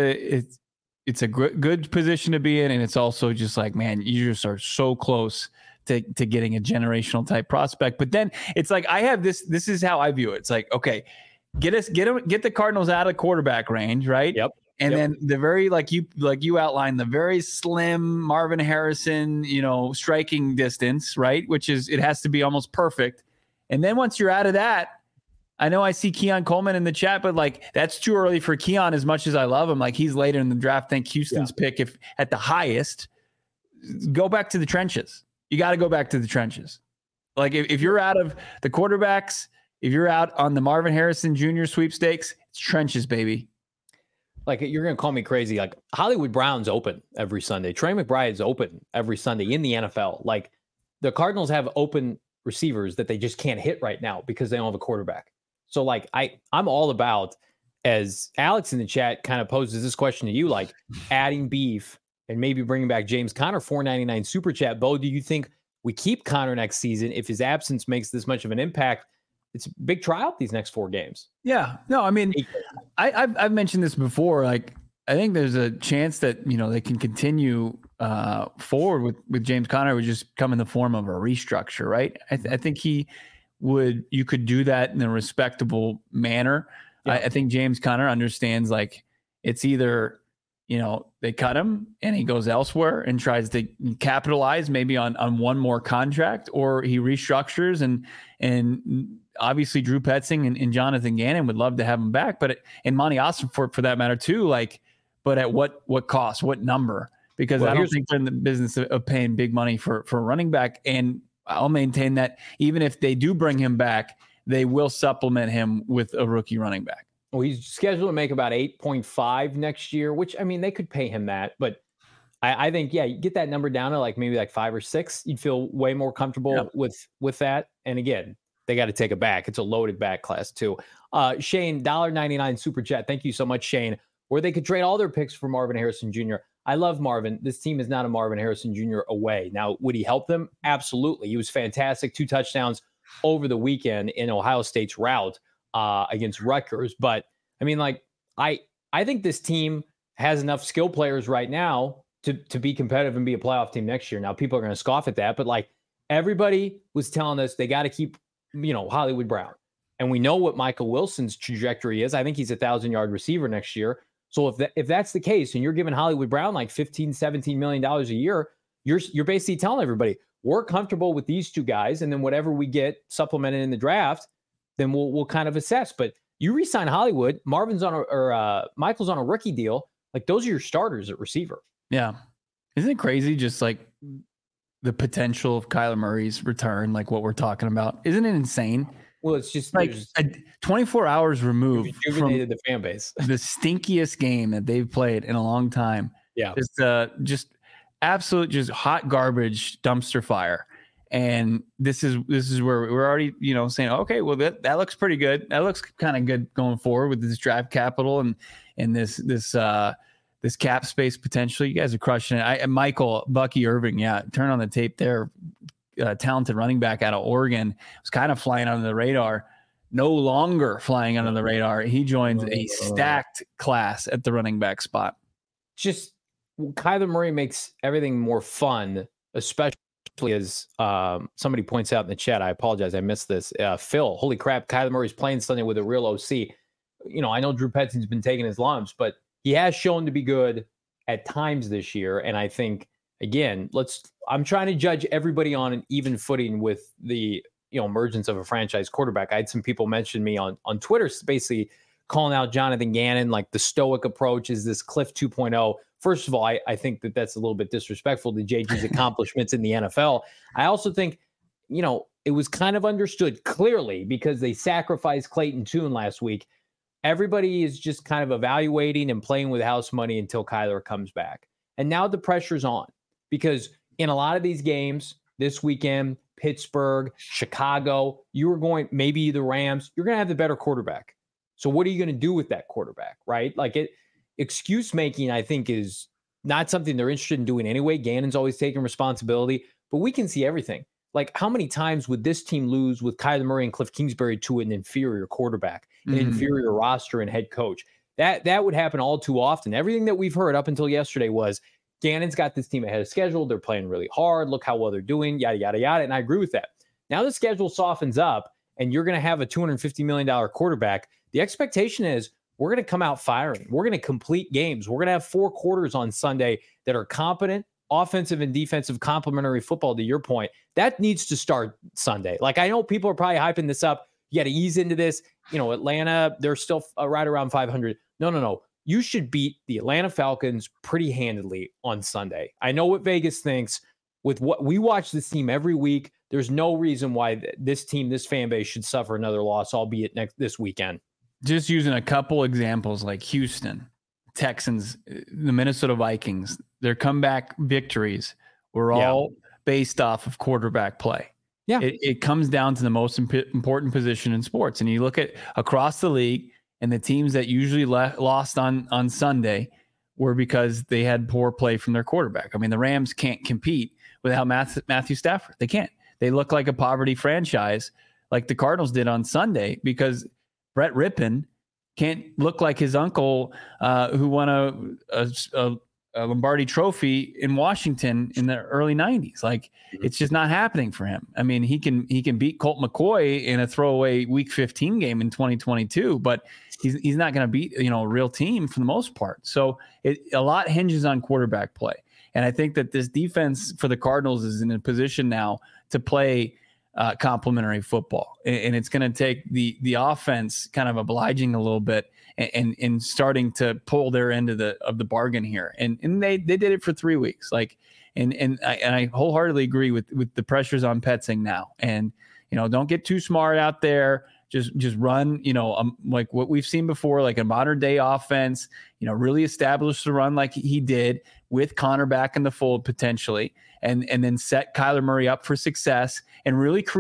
a good position to be in. And it's also just man, you just are so close to getting a generational type prospect. But then it's I have this is how I view it. It's okay, get the Cardinals out of quarterback range. Right. Yep. And then the very, you outlined, the very slim Marvin Harrison, striking distance, right? Which is, it has to be almost perfect. And then once you're out of that, I know I see Keon Coleman in the chat, but that's too early for Keon as much as I love him. He's later in the draft. Think Houston's pick, if at the highest, go back to the trenches. You got to go back to the trenches. If you're out of the quarterbacks, if you're out on the Marvin Harrison Jr. sweepstakes, it's trenches, baby. You're going to call me crazy. Hollywood Brown's open every Sunday. Trey McBride's open every Sunday in the NFL. The Cardinals have open receivers that they just can't hit right now because they don't have a quarterback. So I'm all about, as Alex in the chat kind of poses this question to you, adding beef and maybe bringing back James Conner, $4.99 super chat. Bo, do you think we keep Conner next season if his absence makes this much of an impact? It's a big trial these next 4 games. Yeah. No, I mean, I've mentioned this before. I think there's a chance that, they can continue forward with James Conner. It would just come in the form of a restructure, right? I think you could do that in a respectable manner. Yeah. I think James Conner understands it's either, they cut him and he goes elsewhere and tries to capitalize maybe on one more contract, or he restructures and obviously Drew Petzing and Jonathan Gannon would love to have him back, and Monty Austin for that matter too. But at what cost, what number? Because I don't think they're in the business of paying big money for a running back. And I'll maintain that even if they do bring him back, they will supplement him with a rookie running back. Well, he's scheduled to make about 8.5 next year, which, I mean, they could pay him that. But I think, you get that number down to maybe 5 or 6. You'd feel way more comfortable with that. And again, they got to take it back. It's a loaded back class too. Shane, $1.99 super chat. Thank you so much, Shane. Where they could trade all their picks for Marvin Harrison Jr. I love Marvin. This team is not a Marvin Harrison Jr. away. Now, would he help them? Absolutely. He was fantastic. 2 touchdowns over the weekend in Ohio State's rout against Rutgers. But I mean, like, I think this team has enough skill players right now to be competitive and be a playoff team next year. Now, people are going to scoff at that, but like everybody was telling us they got to keep, Hollywood Brown. And we know what Michael Wilson's trajectory is. I think he's a 1,000-yard receiver next year. So if that's the case, and you're giving Hollywood Brown like $15-17 million a year, you're basically telling everybody we're comfortable with these 2 guys, and then whatever we get supplemented in the draft, then we'll kind of assess. But you re-sign Hollywood, Michael's on a rookie deal. Like, those are your starters at receiver. Yeah, isn't it crazy? Just like the potential of Kyler Murray's return, like what we're talking about, isn't it insane? Well, it's just like 24 hours removed from the fan base. The stinkiest game that they've played in a long time. Yeah, just absolute, just hot garbage dumpster fire. And this is where we're already, saying, okay, well that looks pretty good. That looks kind of good going forward with this draft capital and this cap space potentially. You guys are crushing it. Bucky Irving, turn on the tape there. Talented running back out of Oregon, was kind of flying under the radar. No longer flying under the radar. He joins a stacked class at the running back spot. Just Kyler Murray makes everything more fun, especially as somebody points out in the chat. I apologize, I missed this. Phil, holy crap, Kyler Murray's playing Sunday with a real OC. I know Drew Petzing's been taking his lumps, but he has shown to be good at times this year. And I think, again, I'm trying to judge everybody on an even footing with the emergence of a franchise quarterback. I had some people mention me on Twitter, basically calling out Jonathan Gannon, like the stoic approach is this Cliff 2.0. First of all, I think that's a little bit disrespectful to JG's accomplishments in the NFL. I also think, it was kind of understood clearly because they sacrificed Clayton Tune last week. Everybody is just kind of evaluating and playing with house money until Kyler comes back. And now the pressure's on because in a lot of these games this weekend, Pittsburgh, Chicago, maybe the Rams, you're going to have the better quarterback. So what are you going to do with that quarterback, right? Like excuse making, I think, is not something they're interested in doing anyway. Gannon's always taking responsibility, but we can see everything. Like, how many times would this team lose with Kyler Murray and Cliff Kingsbury to an inferior quarterback, an inferior roster and head coach? That would happen all too often. Everything that we've heard up until yesterday was Gannon's got this team ahead of schedule. They're playing really hard. Look how well they're doing, yada, yada, yada. And I agree with that. Now the schedule softens up and you're going to have a $250 million quarterback. The expectation is we're going to come out firing. We're going to complete games. We're going to have 4 quarters on Sunday that are competent, offensive and defensive complementary football, to your point. That needs to start Sunday. Like, I know people are probably hyping this up. You got to ease into this. Atlanta, they're still right around 500. No. You should beat the Atlanta Falcons pretty handedly on Sunday. I know what Vegas thinks. With what we watch this team every week, there's no reason why this team, this fan base, should suffer another loss, albeit this weekend. Just using a couple examples like Houston, Texans, the Minnesota Vikings, their comeback victories were all based off of quarterback play. Yeah, it comes down to the most important position in sports. And you look at across the league, and the teams that usually lost on Sunday were because they had poor play from their quarterback. I mean, the Rams can't compete without Matthew Stafford. They can't. They look like a poverty franchise like the Cardinals did on Sunday because Brett Rippon can't look like his uncle who won a Lombardi Trophy in Washington in the early 90s. Like, it's just not happening for him. I mean, he can beat Colt McCoy in a throwaway Week 15 game in 2022, but he's not going to beat a real team for the most part. So a lot hinges on quarterback play, and I think that this defense for the Cardinals is in a position now to play complementary football, and it's going to take the offense kind of obliging a little bit and starting to pull their end of the bargain here. And they did it for 3 weeks. Like, and I wholeheartedly agree with the pressures on Petzing now. And, don't get too smart out there. Just run, like what we've seen before, like a modern day offense, really establish the run like he did with Connor back in the fold potentially, and then set Kyler Murray up for success and really create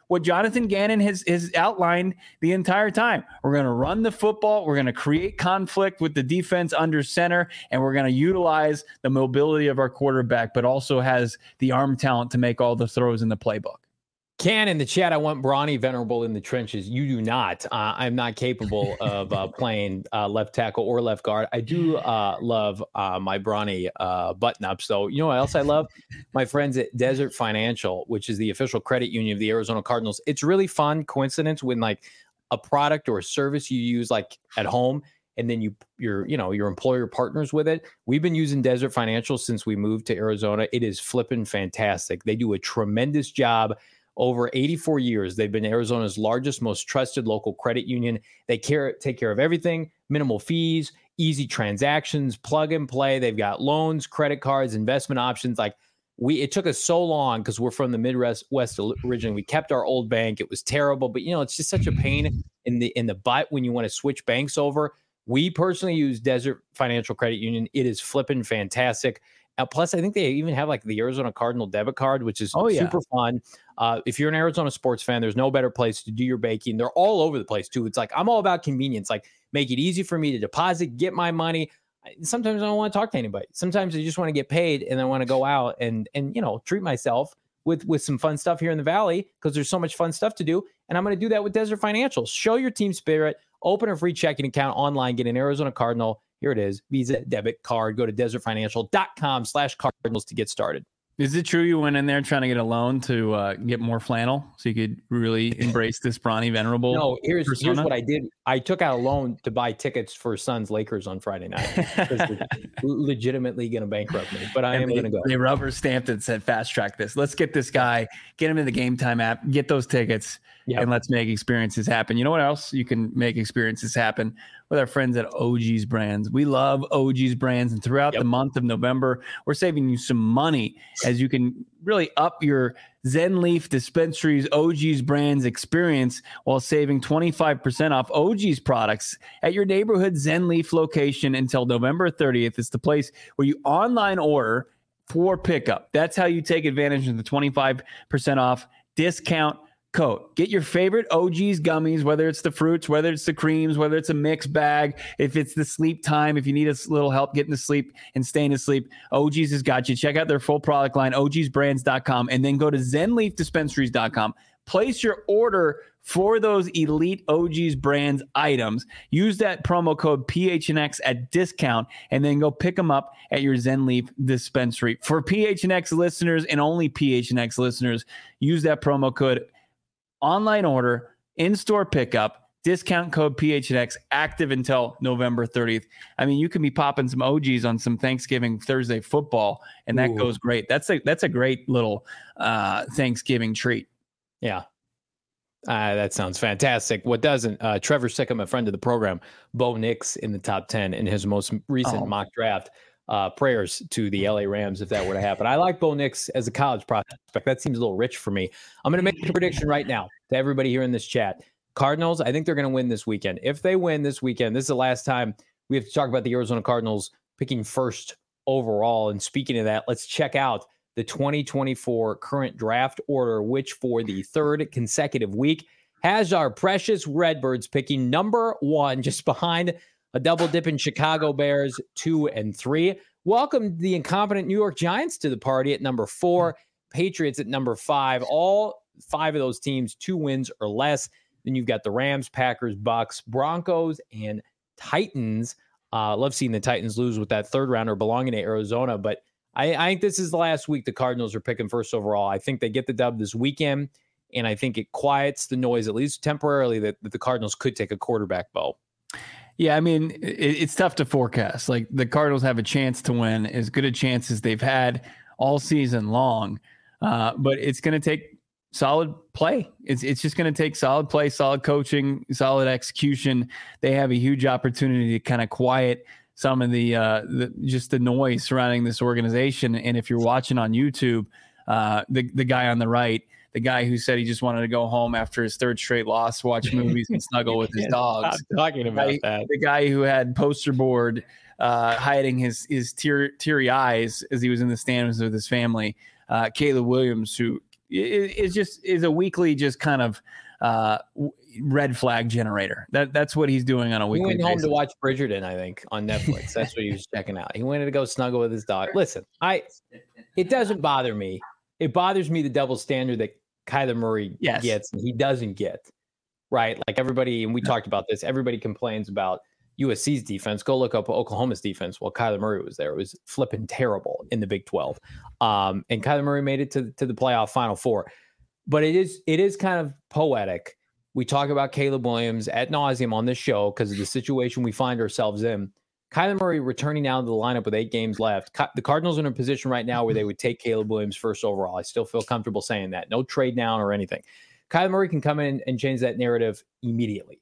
what Jonathan Gannon has outlined the entire time. We're going to run the football. We're going to create conflict with the defense under center, and we're going to utilize the mobility of our quarterback, but also has the arm talent to make all the throws in the playbook. Ken in the chat, I want Bronny Venerable in the trenches. You do not. I'm not capable of playing left tackle or left guard. I do love my Bronny button-ups, though. You know what else I love? My friends at Desert Financial, which is the official credit union of the Arizona Cardinals. It's really fun coincidence when like a product or a service you use like at home, and then your employer partners with it. We've been using Desert Financial since we moved to Arizona. It is flipping fantastic. They do a tremendous job. Over 84 years, they've been Arizona's largest, most trusted local credit union. They take care of everything, minimal fees, easy transactions, plug and play. They've got loans, credit cards, investment options. It took us so long because we're from the Midwest originally. We kept our old bank. It was terrible, but it's just such a pain in the butt when you want to switch banks over. We personally use Desert Financial Credit Union. It is flipping fantastic. Plus, I think they even have like the Arizona Cardinal debit card, which is super fun. If you're an Arizona sports fan, there's no better place to do your banking. They're all over the place, too. It's like I'm all about convenience. Like, make it easy for me to deposit, get my money. Sometimes I don't want to talk to anybody. Sometimes I just want to get paid and I want to go out and treat myself with some fun stuff here in the Valley because there's so much fun stuff to do. And I'm going to do that with Desert Financial. Show your team spirit. Open a free checking account online. Get an Arizona Cardinal. Here it is. Visa debit card. Go to desertfinancial.com/Cardinals to get started. Is it true you went in there trying to get a loan to get more flannel so you could really embrace this Bronny Venerable? No, here's what I did. I took out a loan to buy tickets for Suns Lakers on Friday night. They're legitimately going to bankrupt me, but I am going to go. They rubber stamped it and said, fast track this. Let's get this guy, get him in the Game Time app, get those tickets, and let's make experiences happen. You know what else you can make experiences happen? With our friends at OG's Brands. We love OG's Brands, and throughout the month of November, we're saving you some money as you can really up your Zen Leaf Dispensary's OG's Brands experience while saving 25% off OG's products at your neighborhood Zen Leaf location until November 30th. It's the place where you online order for pickup. That's how you take advantage of the 25% off discount code. Get your favorite OG's gummies, whether it's the fruits, whether it's the creams, whether it's a mixed bag, if it's the sleep time, if you need a little help getting to sleep and staying asleep, OG's has got you. Check out their full product line, ogsbrands.com, and then go to zenleafdispensaries.com. Place your order for those elite OG's Brands items. Use that promo code PHNX at discount, and then go pick them up at your Zen Leaf dispensary. For PHNX listeners and only PHNX listeners, use that promo code. Online order, in-store pickup, discount code PHNX, active until November 30th. I mean, you can be popping some OGs on some Thanksgiving Thursday football, and that goes great. That's a great little Thanksgiving treat. Yeah. That sounds fantastic. What doesn't? Trevor Sickham, a friend of the program, Bo Nix in the top 10 in his most recent mock draft. Prayers to the LA Rams if that were to happen. I like Bo Nix as a college prospect. That seems a little rich for me. I'm going to make a prediction right now to everybody here in this chat. Cardinals, I think they're going to win this weekend. If they win this weekend, this is the last time we have to talk about the Arizona Cardinals picking first overall. And speaking of that, let's check out the 2024 current draft order, which for the third consecutive week has our precious Redbirds picking number 1, just behind a double dip in Chicago Bears 2 and 3. Welcome the incompetent New York Giants to the party at number 4, Patriots at number 5. All 5 of those teams 2 wins or less. Then you've got the Rams, Packers, Bucks, Broncos, and Titans. Love seeing the Titans lose with that third rounder belonging to Arizona, but I think this is the last week the Cardinals are picking first overall. I think they get the dub this weekend, and I think it quiets the noise, at least temporarily, that the Cardinals could take a quarterback, Bo. Yeah, I mean, it's tough to forecast. Like, the Cardinals have a chance to win, as good a chance as they've had all season long. But it's going to take solid play. It's just going to take solid play, solid coaching, solid execution. They have a huge opportunity to kind of quiet some of the noise surrounding this organization. And if you're watching on YouTube, the guy on the right, the guy who said he just wanted to go home after his third straight loss, watch movies and snuggle with his dogs. Stop talking about that. The guy who had poster board hiding his teary eyes as he was in the stands with his family. Caleb Williams, who It's just is a weekly just kind of red flag generator. That's what he's doing on a weekly basis. He went home to watch Bridgerton, I think, on Netflix. That's what he was checking out. He wanted to go snuggle with his dog. Listen, it doesn't bother me. It bothers me the double standard that Kyler Murray gets and he doesn't get. Right? Like everybody, and we talked about this, everybody complains about USC's defense. Go look up Oklahoma's defense while Kyler Murray was there. It was flipping terrible in the Big 12. And Kyler Murray made it to the playoff Final Four. But it is kind of poetic. We talk about Caleb Williams ad nauseum on this show because of the situation we find ourselves in. Kyler Murray returning now to the lineup with 8 games left. The Cardinals are in a position right now where they would take Caleb Williams first overall. I still feel comfortable saying that. No trade down or anything. Kyler Murray can come in and change that narrative immediately,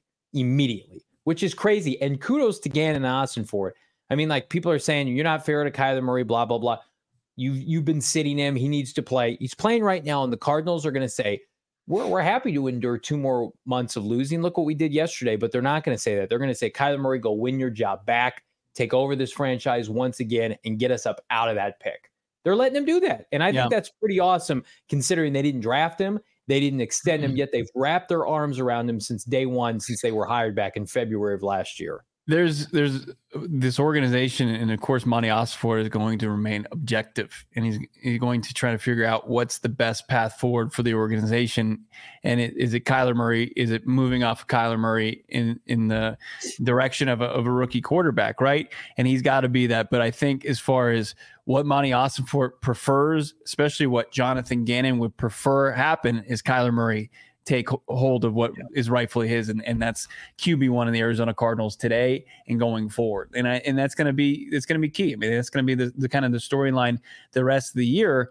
which is crazy. And kudos to Gannon and Austin for it. I mean, like, people are saying, you're not fair to Kyler Murray, blah, blah, blah. You've been sitting him. He needs to play. He's playing right now, and the Cardinals are going to say, we're happy to endure 2 more months of losing. Look what we did yesterday. But they're not going to say that. They're going to say, Kyler Murray, go win your job back, take over this franchise once again, and get us up out of that pick. They're letting him do that. And I think that's pretty awesome, considering they didn't draft him. They didn't extend him, yet they've wrapped their arms around him since day one, since they were hired back in February of last year. There's this organization, and of course, Monty Ossenfort is going to remain objective, and he's going to try to figure out what's the best path forward for the organization. And is it Kyler Murray? Is it moving off of Kyler Murray in the direction of a rookie quarterback, right? And he's got to be that. But I think as far as what Monty Ossenfort prefers, especially what Jonathan Gannon would prefer happen, is Kyler Murray take hold of what is rightfully his, and that's QB1 of the Arizona Cardinals today and going forward. And that's going to be key. I mean, that's going to be the kind of the storyline the rest of the year.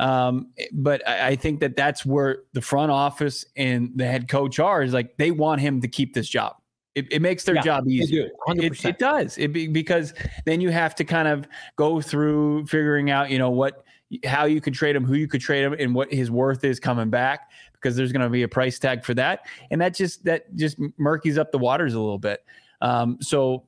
But I think that's where the front office and the head coach is like, they want him to keep this job. It makes their job easier. It does. Because then you have to kind of go through figuring out, how you could trade him, who you could trade him, and what his worth is coming back, because there's going to be a price tag for that. And that just murkies up the waters a little bit. So,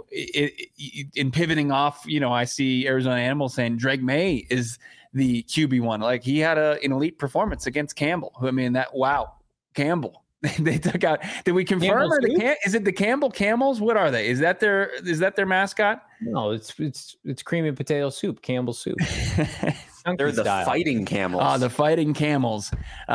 in pivoting off, I see Arizona Animals saying Drake May is the QB1. Like, he had an elite performance against Campbell. Campbell. They took out. Did we confirm? Is it the Campbell Camels? What are they? Is that their mascot? No, it's cream and potato soup. Campbell soup. They're the Fighting Camels. Oh, the Fighting Camels.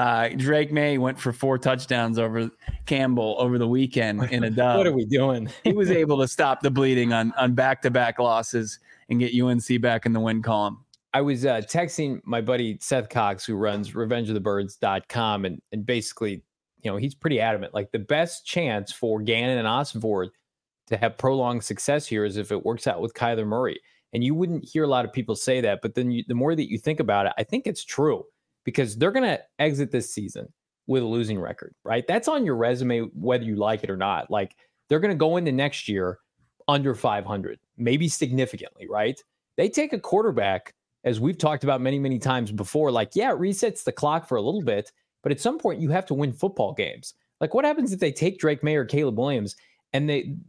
Drake May went for 4 touchdowns over Campbell over the weekend in a dub. What are we doing? He was able to stop the bleeding on back-to-back losses and get UNC back in the win column. I was texting my buddy Seth Cox, who runs RevengeOfTheBirds.com, and basically, he's pretty adamant. Like, the best chance for Gannon and Ossenfort to have prolonged success here is if it works out with Kyler Murray. And you wouldn't hear a lot of people say that, but then the more that you think about it, I think it's true, because they're going to exit this season with a losing record, right? That's on your resume, whether you like it or not. Like, they're going to go into next year under 500, maybe significantly, right? They take a quarterback, as we've talked about many, many times before, like, it resets the clock for a little bit, but at some point you have to win football games. Like, what happens if they take Drake May or Caleb Williams and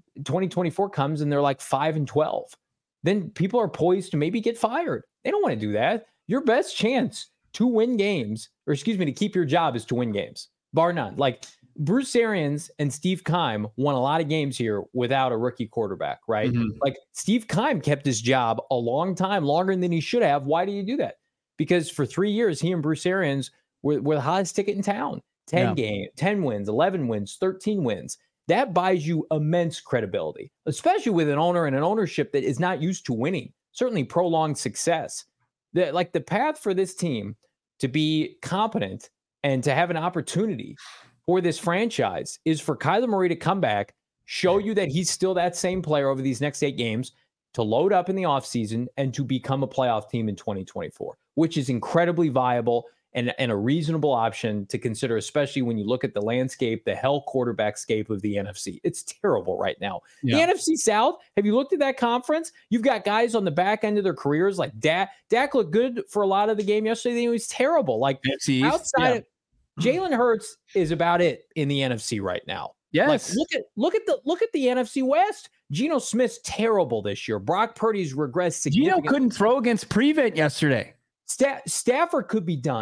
2024 comes and they're like 5-12? Then people are poised to maybe get fired. They don't want to do that. Your best chance to win games, to keep your job, is to win games, bar none. Like, Bruce Arians and Steve Keim won a lot of games here without a rookie quarterback, right? Mm-hmm. Like, Steve Keim kept his job a long time, longer than he should have. Why do you do that? Because for 3 years, he and Bruce Arians were the hottest ticket in town. 10 wins, 11 wins, 13 wins. That buys you immense credibility, especially with an owner and an ownership that is not used to winning, certainly prolonged success. The path for this team to be competent and to have an opportunity for this franchise is for Kyler Murray to come back, show you that he's still that same player over these next 8 games, to load up in the offseason, and to become a playoff team in 2024, which is incredibly viable and a reasonable option to consider, especially when you look at the landscape, the hell quarterback-scape of the NFC. It's terrible right now. Yeah. The NFC South, have you looked at that conference? You've got guys on the back end of their careers, like Dak looked good for a lot of the game yesterday. He was terrible. Like, outside of Jalen Hurts is about it in the NFC right now. Yes. Like, look at the NFC West. Geno Smith's terrible this year. Brock Purdy's regressed significantly. Geno couldn't throw against Prevent yesterday. Stafford could be done.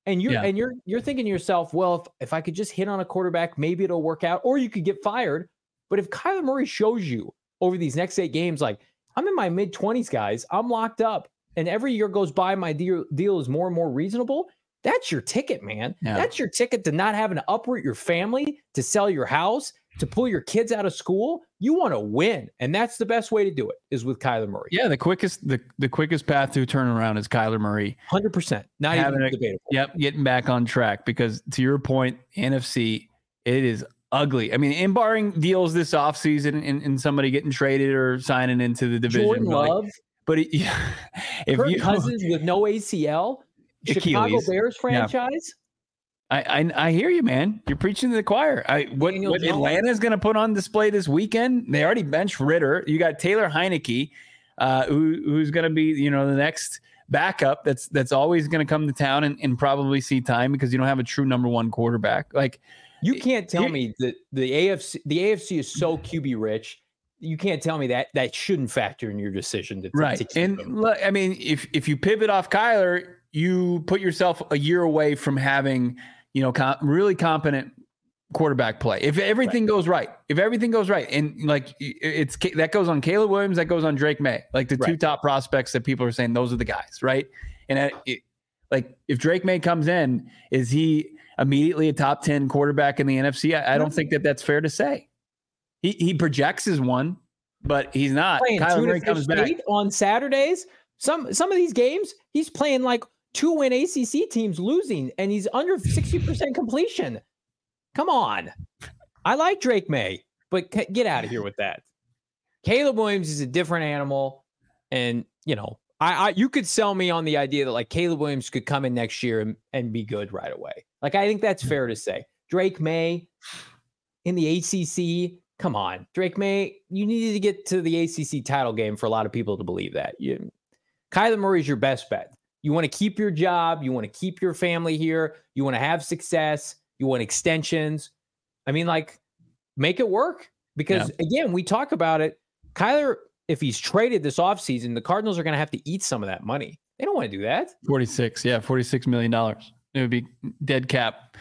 And you're thinking to yourself, well, if I could just hit on a quarterback, maybe it'll work out, or you could get fired. But if Kyler Murray shows you over these next 8 games, like, I'm in my mid-20s, guys, I'm locked up, and every year goes by, my deal is more and more reasonable, that's your ticket, man. Yeah. That's your ticket to not having to uproot your family, to sell your house, to pull your kids out of school. You want to win, and that's the best way to do it, is with Kyler Murray. Yeah, the quickest path to a turnaround is Kyler Murray. 100%. Not even debatable. Yep, getting back on track, because to your point, NFC, it is ugly. I mean, and barring deals this offseason and somebody getting traded or signing into the division. Jordan Love. But if Kirk Cousins with no ACL, Chicago Bears franchise. Yeah. I hear you, man. You're preaching to the choir. What Atlanta is going to put on display this weekend? They already benched Ritter. You got Taylor Heineke, who's going to be, the next backup. That's always going to come to town and probably see time, because you don't have a true number 1 quarterback. Like, you can't tell me that the AFC is so QB rich. You can't tell me that shouldn't factor in your decision to keep and him. Look, I mean, if you pivot off Kyler, you put yourself a year away from having, really competent quarterback play. If everything goes right, and like that goes on Caleb Williams, that goes on Drake May, like the 2 top prospects that people are saying those are the guys, right? And like if Drake May comes in, is he immediately a top 10 quarterback in the NFC? I don't think that's fair to say. He projects as one, but he's not. Kyler Murray comes back on Saturdays. Some of these games, he's playing like 2-win ACC teams losing, and he's under 60% completion. Come on. I like Drake May, but get out of here with that. Caleb Williams is a different animal, and you could sell me on the idea that like Caleb Williams could come in next year and be good right away. Like, I think that's fair to say. Drake May in the ACC. Come on, Drake May, you needed to get to the ACC title game for a lot of people to believe that. Kyler Murray is your best bet. You want to keep your job. You want to keep your family here. You want to have success. You want extensions. I mean, like, make it work. Because, again, we talk about it. Kyler, if he's traded this offseason, the Cardinals are going to have to eat some of that money. They don't want to do that. $46 million. It would be dead cap.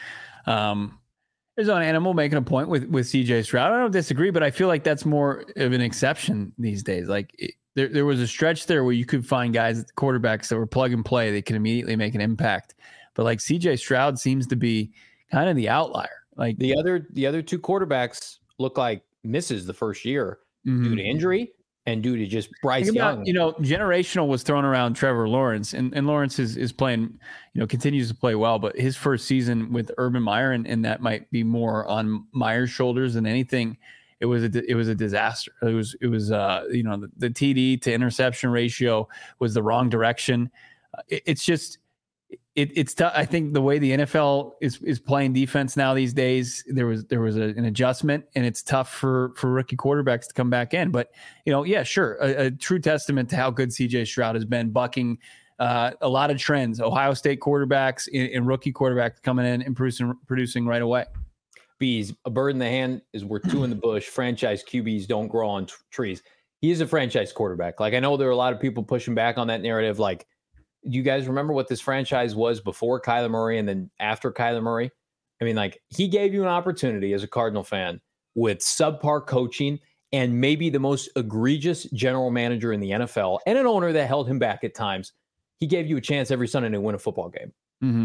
There's an animal making a point with CJ Stroud. I don't disagree, but I feel like that's more of an exception these days. Like there was a stretch there where you could find guys, quarterbacks that were plug and play. They can immediately make an impact. But like CJ Stroud seems to be kind of the outlier. Like the other 2 quarterbacks look like misses the first year due to injury and due to just Bryce Young. Generational was thrown around Trevor Lawrence, and Lawrence is playing, continues to play well, but his first season with Urban Meyer, and that might be more on Meyer's shoulders than anything. It was a disaster. It was the TD to interception ratio was the wrong direction. It's just, it's tough. I think the way the NFL is playing defense now these days, there was an adjustment, and it's tough for rookie quarterbacks to come back in. But sure, a true testament to how good CJ Stroud has been, bucking a lot of trends. Ohio State quarterbacks and rookie quarterbacks coming in and producing right away. Bees, a bird in the hand is worth 2 in the bush. Franchise QBs don't grow on trees. He is a franchise quarterback. Like, I know there are a lot of people pushing back on that narrative. Like, do you guys remember what this franchise was before Kyler Murray and then after Kyler Murray? I mean, like, he gave you an opportunity as a Cardinal fan with subpar coaching and maybe the most egregious general manager in the NFL and an owner that held him back at times. He gave you a chance every Sunday to win a football game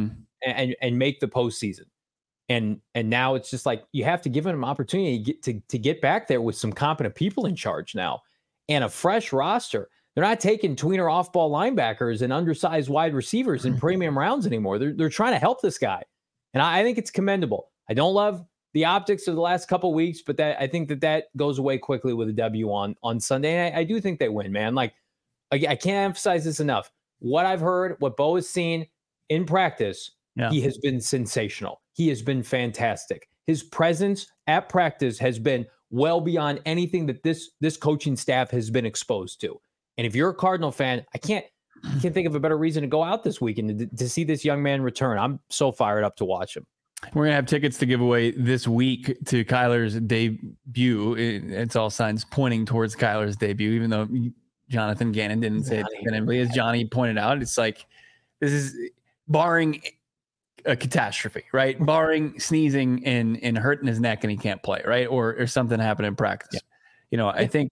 and make the postseason. And now it's just like you have to give him an opportunity to get back there with some competent people in charge now and a fresh roster. They're not taking tweener off-ball linebackers and undersized wide receivers in premium rounds anymore. They're trying to help this guy, and I think it's commendable. I don't love the optics of the last couple of weeks, but I think that goes away quickly with a W on Sunday. And I do think they win, man. Like, I can't emphasize this enough. What I've heard, what Bo has seen in practice, he has been sensational. He has been fantastic. His presence at practice has been well beyond anything that this coaching staff has been exposed to. And if you're a Cardinal fan, I can't think of a better reason to go out this weekend to see this young man return. I'm so fired up to watch him. We're going to have tickets to give away this week to Kyler's debut. It's all signs pointing towards Kyler's debut, even though Jonathan Gannon didn't say it definitively. As Johnny pointed out, it's like, this is barring a catastrophe, right? Barring sneezing and hurting his neck and he can't play, right? Or something happened in practice. Yeah. I think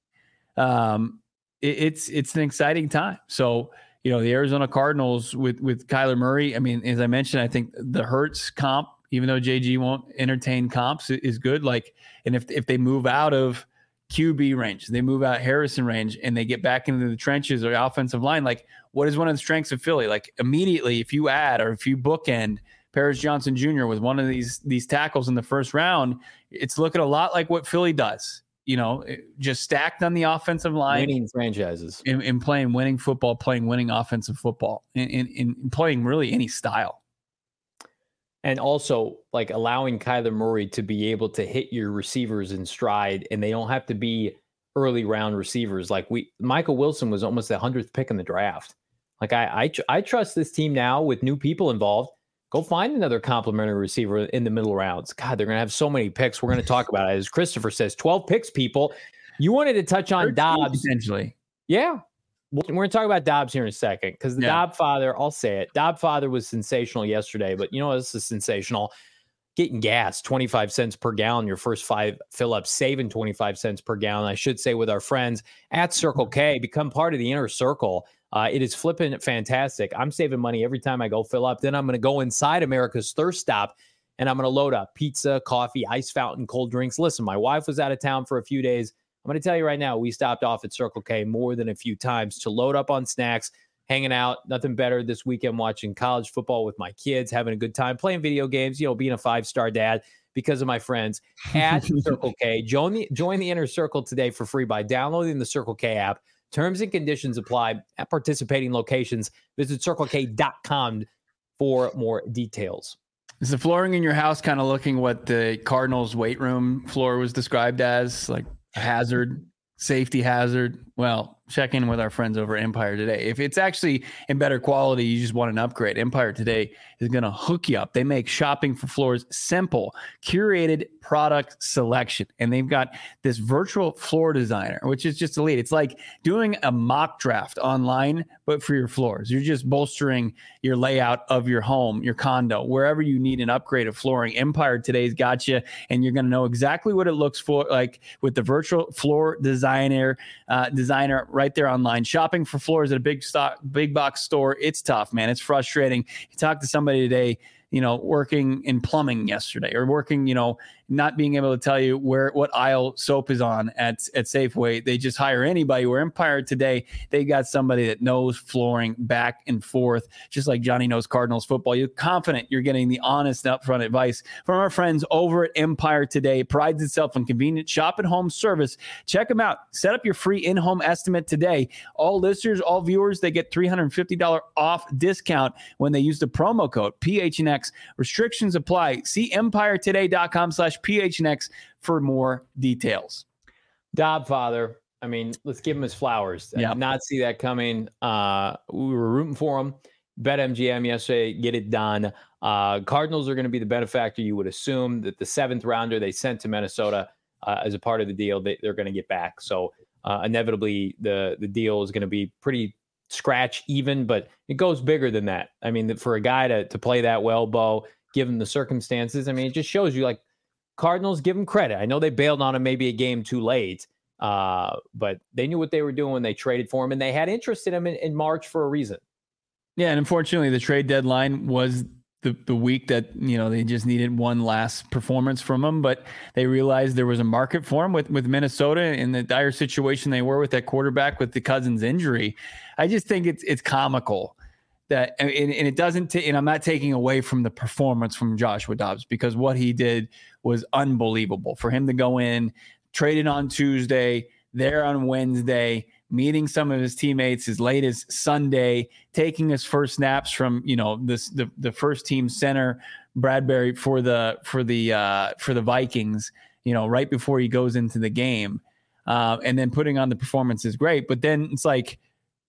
it's an exciting time. So, the Arizona Cardinals with Kyler Murray, I mean, as I mentioned, I think the Hurts comp, even though JG won't entertain comps, is good. Like, and if they move out of QB range, they move out Harrison range, and they get back into the trenches or offensive line, like, what is one of the strengths of Philly? Like, immediately, if you add or if you bookend Paris Johnson Jr. with one of these tackles in the first round, it's looking a lot like what Philly does. Just stacked on the offensive line. Winning franchises. In playing winning football, playing winning offensive football, in playing really any style. And also, like, allowing Kyler Murray to be able to hit your receivers in stride, and they don't have to be early round receivers. Like, Michael Wilson was almost the 100th pick in the draft. Like, I trust this team now with new people involved. Go find another complimentary receiver in the middle rounds. God, they're going to have so many picks. We're going to talk about it. As Christopher says, 12 picks, people. You wanted to touch on Dobbs. Potentially. Yeah. We're going to talk about Dobbs here in a second because the Dobb father, I'll say it, Dobb father was sensational yesterday, but this is sensational. Getting gas, 25 cents per gallon, your first 5 fill-ups, saving 25 cents per gallon, I should say, with our friends at Circle K. Become part of the inner circle. It is flipping fantastic. I'm saving money every time I go fill up. Then I'm going to go inside America's Thirst Stop, and I'm going to load up pizza, coffee, ice fountain, cold drinks. Listen, my wife was out of town for a few days. I'm going to tell you right now, we stopped off at Circle K more than a few times to load up on snacks, hanging out. Nothing better this weekend watching college football with my kids, having a good time, playing video games, being a 5-star dad because of my friends at Circle K. Join the inner circle today for free by downloading the Circle K app. Terms and conditions apply at participating locations. Visit CircleK.com for more details. Is the flooring in your house kind of looking what the Cardinals weight room floor was described as, like a hazard, safety hazard? Well, check in with our friends over at Empire Today. If it's actually in better quality, you just want an upgrade, Empire Today is going to hook you up. They make shopping for floors simple, curated product selection, and they've got this virtual floor designer, which is just elite. It's like doing a mock draft online, but for your floors. You're just bolstering your layout of your home, your condo, wherever you need an upgrade of flooring. Empire Today's got you, and you're going to know exactly what it looks for like with the virtual floor designer right there online. Shopping for floors at a big box store, it's tough, man. It's frustrating. You talk to somebody today, working in plumbing yesterday, or working, not being able to tell you what aisle soap is on at Safeway. They just hire anybody. Where Empire Today, they got somebody that knows flooring back and forth, just like Johnny knows Cardinals football. You're confident you're getting the honest upfront advice from our friends over at Empire Today. It prides itself on convenient shop at home service. Check them out. Set up your free in-home estimate today. All listeners, all viewers, they get $350 off discount when they use the promo code PHNX. Restrictions apply. See EmpireToday.com/PHNX for more details. Dobb father, I mean, let's give him his flowers. I did not see that coming. We were rooting for him. BetMGM yesterday, get it done. Cardinals are going to be the benefactor. You would assume that the 7th rounder they sent to Minnesota as a part of the deal, they're going to get back. So inevitably, the deal is going to be pretty scratch even, but it goes bigger than that. I mean, for a guy to play that well, Bo, given the circumstances, I mean, it just shows you, like, Cardinals, give him credit. I know they bailed on him maybe a game too late, but they knew what they were doing when they traded for him, and they had interest in him in March for a reason. Yeah, and unfortunately, the trade deadline was the week that, they just needed one last performance from him, but they realized there was a market for him with Minnesota in the dire situation they were with that quarterback with the Cousins injury. I just think it's comical that, and it doesn't, and I'm not taking away from the performance from Joshua Dobbs, because what he did was unbelievable. For him to go in, traded on Tuesday, there on Wednesday, meeting some of his teammates as late as Sunday, taking his first snaps from, the first team center Bradbury for the Vikings, right before he goes into the game, and then putting on the performance is great. But then it's like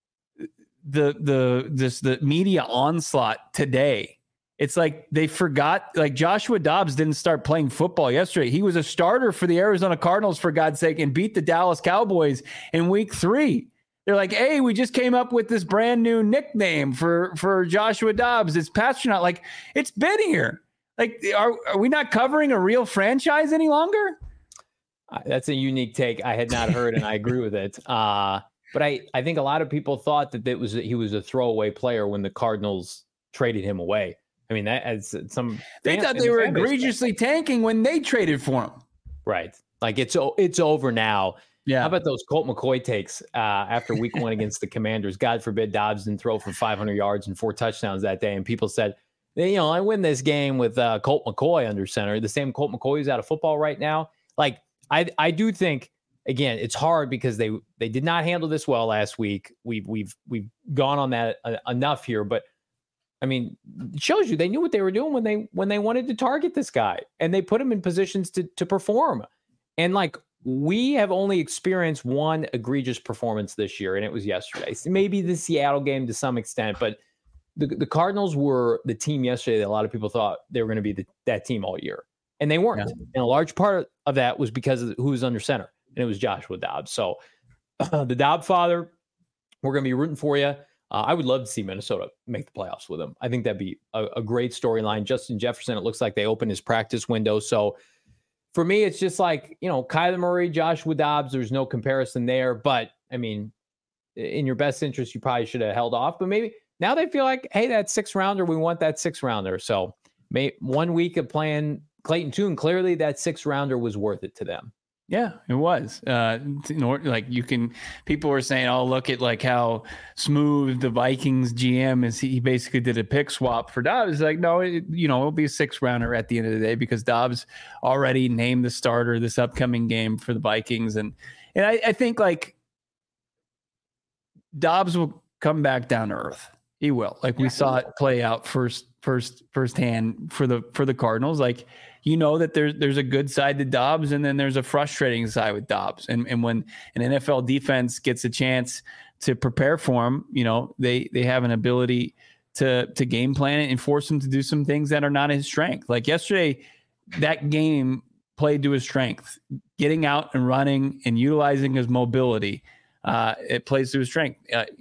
the media onslaught today. It's like they forgot, like, Joshua Dobbs didn't start playing football yesterday. He was a starter for the Arizona Cardinals, for God's sake, and beat the Dallas Cowboys in week 3. They're like, hey, we just came up with this brand new nickname for Joshua Dobbs. It's Pasternaut. Like, it's been here. Like, are we not covering a real franchise any longer? That's a unique take I had not heard, and I agree with it. But I think a lot of people thought that he was a throwaway player when the Cardinals traded him away. I mean, that as some they thought they were egregiously tanking when they traded for him. Right. Like it's over now. Yeah. How about those Colt McCoy takes after week 1 against the Commanders? God forbid Dobbs didn't throw for 500 yards and 4 touchdowns that day. And people said, I win this game with Colt McCoy under center. The same Colt McCoy who's out of football right now. Like, I do think, again, it's hard because they did not handle this well last week. We've gone on that enough here, but I mean, it shows you they knew what they were doing when they wanted to target this guy, and they put him in positions to perform. And like, we have only experienced one egregious performance this year, and it was yesterday. So maybe the Seattle game to some extent, but the Cardinals were the team yesterday that a lot of people thought they were going to be that team all year, and they weren't. Yeah. And a large part of that was because of who was under center, and it was Joshua Dobbs. So the Dobbs father, we're going to be rooting for you. I would love to see Minnesota make the playoffs with him. I think that'd be a great storyline. Justin Jefferson, it looks like they opened his practice window. So for me, it's just like, Kyler Murray, Joshua Dobbs, there's no comparison there. But, I mean, in your best interest, you probably should have held off. But maybe now they feel like, hey, that 6th-rounder, we want that 6th-rounder. So 1 week of playing Clayton Tune, clearly that 6th-rounder was worth it to them. Yeah, it was. People were saying, oh, look at like how smooth the Vikings GM is. He basically did a pick swap for Dobbs. It's like, no, it'll be a 6th-rounder at the end of the day because Dobbs already named the starter this upcoming game for the Vikings. And I think like Dobbs will come back down to earth. He will. Like we saw it play out firsthand for the Cardinals. Like, that there's a good side to Dobbs, and then there's a frustrating side with Dobbs. And when an NFL defense gets a chance to prepare for him, they have an ability to game plan it and force him to do some things that are not his strength. Like yesterday, that game played to his strength, getting out and running and utilizing his mobility. It plays to his strength.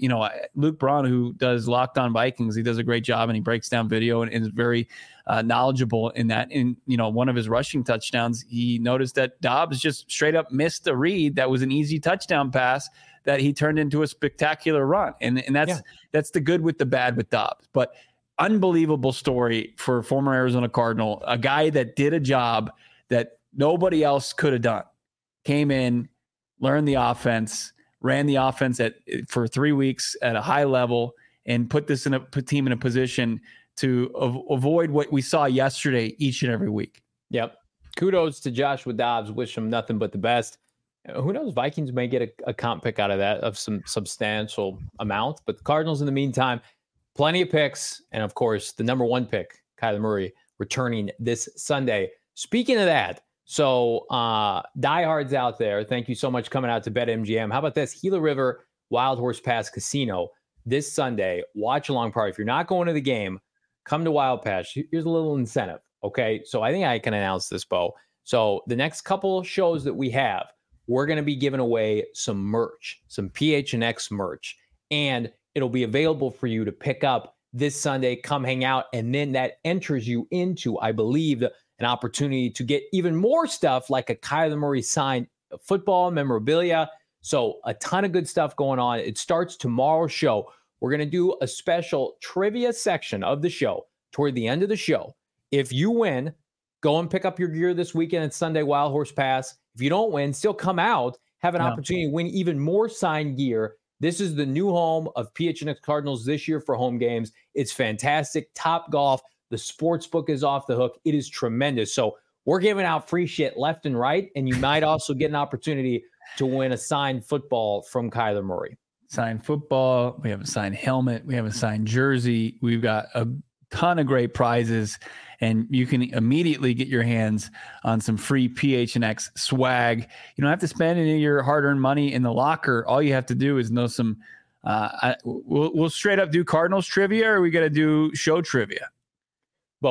Luke Braun, who does Locked On Vikings, he does a great job, and he breaks down video and is very knowledgeable in that. In one of his rushing touchdowns, he noticed that Dobbs just straight up missed a read that was an easy touchdown pass that he turned into a spectacular run. And that's the good with the bad with Dobbs. But unbelievable story for former Arizona Cardinal, a guy that did a job that nobody else could have done. Came in, learned the offense, ran the offense for 3 weeks at a high level, and put this team in a position to avoid what we saw yesterday each and every week. Yep. Kudos to Joshua Dobbs. Wish him nothing but the best. Who knows? Vikings may get a comp pick out of that of some substantial amount. But the Cardinals, in the meantime, plenty of picks. And, of course, the number 1 pick, Kyler Murray, returning this Sunday. Speaking of that, so diehards out there, thank you so much coming out to BetMGM. How about this? Gila River Wild Horse Pass Casino this Sunday. Watch along party. If you're not going to the game, come to Wild Pass. Here's a little incentive, okay? So I think I can announce this, Bo. So the next couple shows that we have, we're going to be giving away some merch, some PHNX merch, and it'll be available for you to pick up this Sunday. Come hang out, and then that enters you into, I believe, an opportunity to get even more stuff like a Kyler Murray signed football memorabilia. So a ton of good stuff going on. It starts tomorrow's show. We're going to do a special trivia section of the show toward the end of the show. If you win, go and pick up your gear this weekend at Sunday Wild Horse Pass. If you don't win, still come out, have an opportunity to win even more signed gear. This is the new home of PHNX Cardinals this year for home games. It's fantastic. Top golf. The sports book is off the hook. It is tremendous. So we're giving out free shit left and right, and you might also get an opportunity to win a signed football from Kyler Murray. Signed football. We have a signed helmet. We have a signed jersey. We've got a ton of great prizes, and you can immediately get your hands on some free PHNX swag. You don't have to spend any of your hard-earned money in the locker. All you have to do is know some. We'll straight up do Cardinals trivia, or are we got to do show trivia? Both.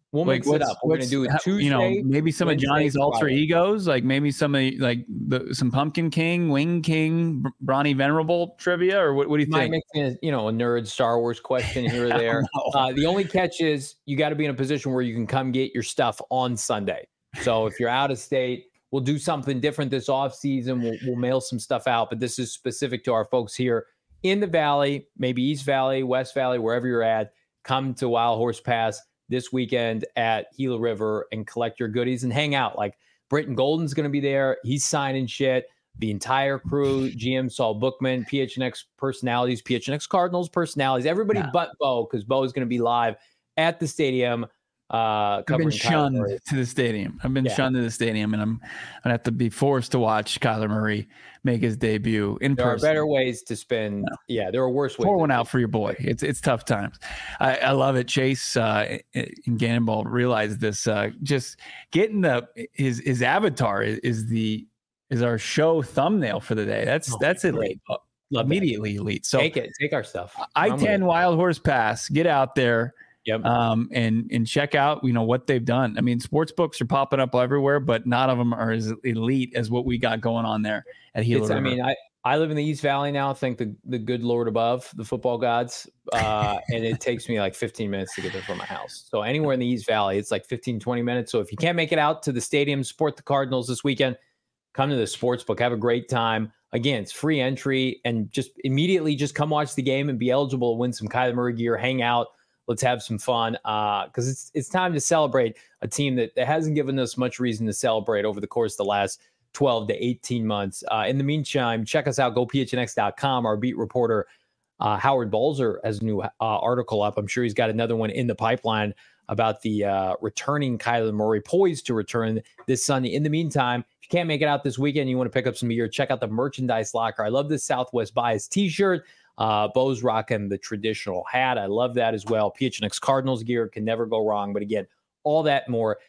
We'll mix it up. We're going to do it Tuesday. Maybe some Wednesday, of Johnny's alter Friday. egos, like maybe some of some Pumpkin King, Wing King, Bronny Venerable trivia, or what do you think? Might mix in, a nerd Star Wars question here or there. The only catch is you got to be in a position where you can come get your stuff on Sunday. So if you're out of state, we'll do something different this off season. We'll mail some stuff out, but this is specific to our folks here in the Valley, maybe East Valley, West Valley, wherever you're at. Come to Wild Horse Pass this weekend at Gila River and collect your goodies and hang out. Like Britton Golden's going to be there. He's signing shit. The entire crew, GM Saul Bookman, PHNX personalities, PHNX Cardinals personalities, everybody but Bo, because Bo is going to be live at the stadium. I've been shunned to the stadium. I've been shunned to the stadium, and I'm going to have to be forced to watch Kyler Murray make his debut in person. There are better ways to spend. No. Yeah, there are worse ways. Pour one out for your boy. It's tough times. I love it. Chase and Gannonball realized this. Just getting his avatar is our show thumbnal for the day. That's elite. Immediately elite. So take our stuff. I-10 Wild Horse Pass. Get out there. Yep. And check out, what they've done. I mean, sports books are popping up everywhere, but none of them are as elite as what we got going on there at Gila River. I mean, I live in the East Valley now. Thank the good Lord above, the football gods. And it takes me like 15 minutes to get there from my house. So anywhere in the East Valley, it's like 15, 20 minutes. So if you can't make it out to the stadium, support the Cardinals this weekend, come to the sports book, have a great time. Again, it's free entry, and just immediately just come watch the game and be eligible to win some Kyler Murray gear, hang out. Let's have some fun because it's time to celebrate a team that hasn't given us much reason to celebrate over the course of the last 12 to 18 months. In the meantime, check us out, gophnx.com. Our beat reporter, Howard Balzer, has a new article up. I'm sure he's got another one in the pipeline about the returning Kyler Murray, poised to return this Sunday. In the meantime, if you can't make it out this weekend, you want to pick up some gear, check out the merchandise locker. I love this Southwest Bias t-shirt. Bo's rocking the traditional hat. I love that as well. PHNX Cardinals gear can never go wrong. But again, all that more,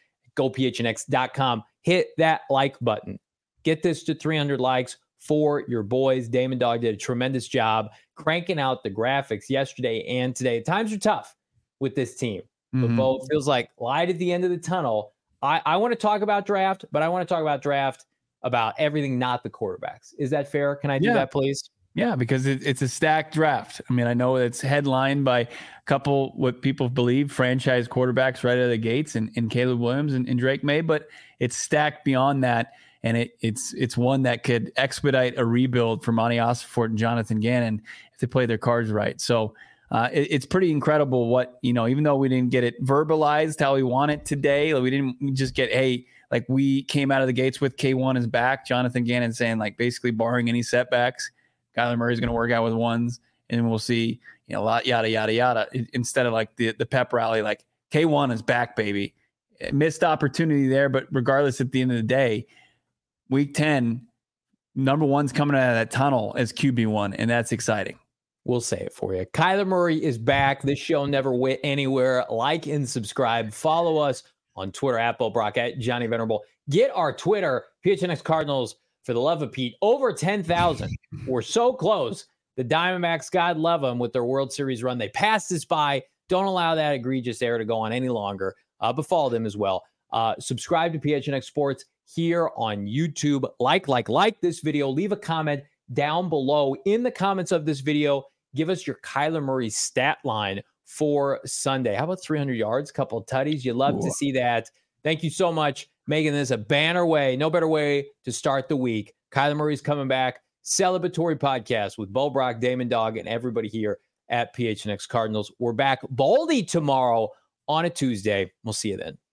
gophnx.com. Hit that like button. Get this to 300 likes for your boys. Damon Dog did a tremendous job cranking out the graphics yesterday and today. Times are tough with this team. But Bo, it feels like light at the end of the tunnel. I want to talk about draft, but I want to talk about draft about everything, not the quarterbacks. Is that fair? Can I do that, please? Yeah, because it's a stacked draft. I mean, I know it's headlined by a couple, what people believe, franchise quarterbacks right out of the gates, and Caleb Williams and Drake May, but it's stacked beyond that, and it's one that could expedite a rebuild for Monty Ossenfort and Jonathan Gannon if they play their cards right. So it's pretty incredible what, even though we didn't get it verbalized how we want it today, like we didn't just get, like we came out of the gates with K1 is back, Jonathan Gannon saying, like, basically barring any setbacks, Kyler Murray's going to work out with ones, and we'll see, a lot, yada, yada, yada, instead of like the pep rally, like K1 is back, baby. Missed opportunity there, but regardless, at the end of the day, week 10, number one's coming out of that tunnel as QB1, and that's exciting. We'll say it for you. Kyler Murray is back. This show never went anywhere. Like and subscribe. Follow us on Twitter at Bo Brock, at Johnny Venerable. Get our Twitter, PHNX Cardinals. For the love of Pete, over 10,000. We're so close. The Diamondbacks, God love them, with their World Series run. They passed us by. Don't allow that egregious error to go on any longer, but follow them as well. Subscribe to PHNX Sports here on YouTube. Like this video. Leave a comment down below in the comments of this video. Give us your Kyler Murray stat line for Sunday. How about 300 yards, couple of tutties? You love to see that. Thank you so much, making this a banner way. No better way to start the week. Kyler Murray's coming back. Celebratory podcast with Bo Brock, Damon Dog, and everybody here at PHNX Cardinals. We're back Baldy tomorrow on a Tuesday. We'll see you then.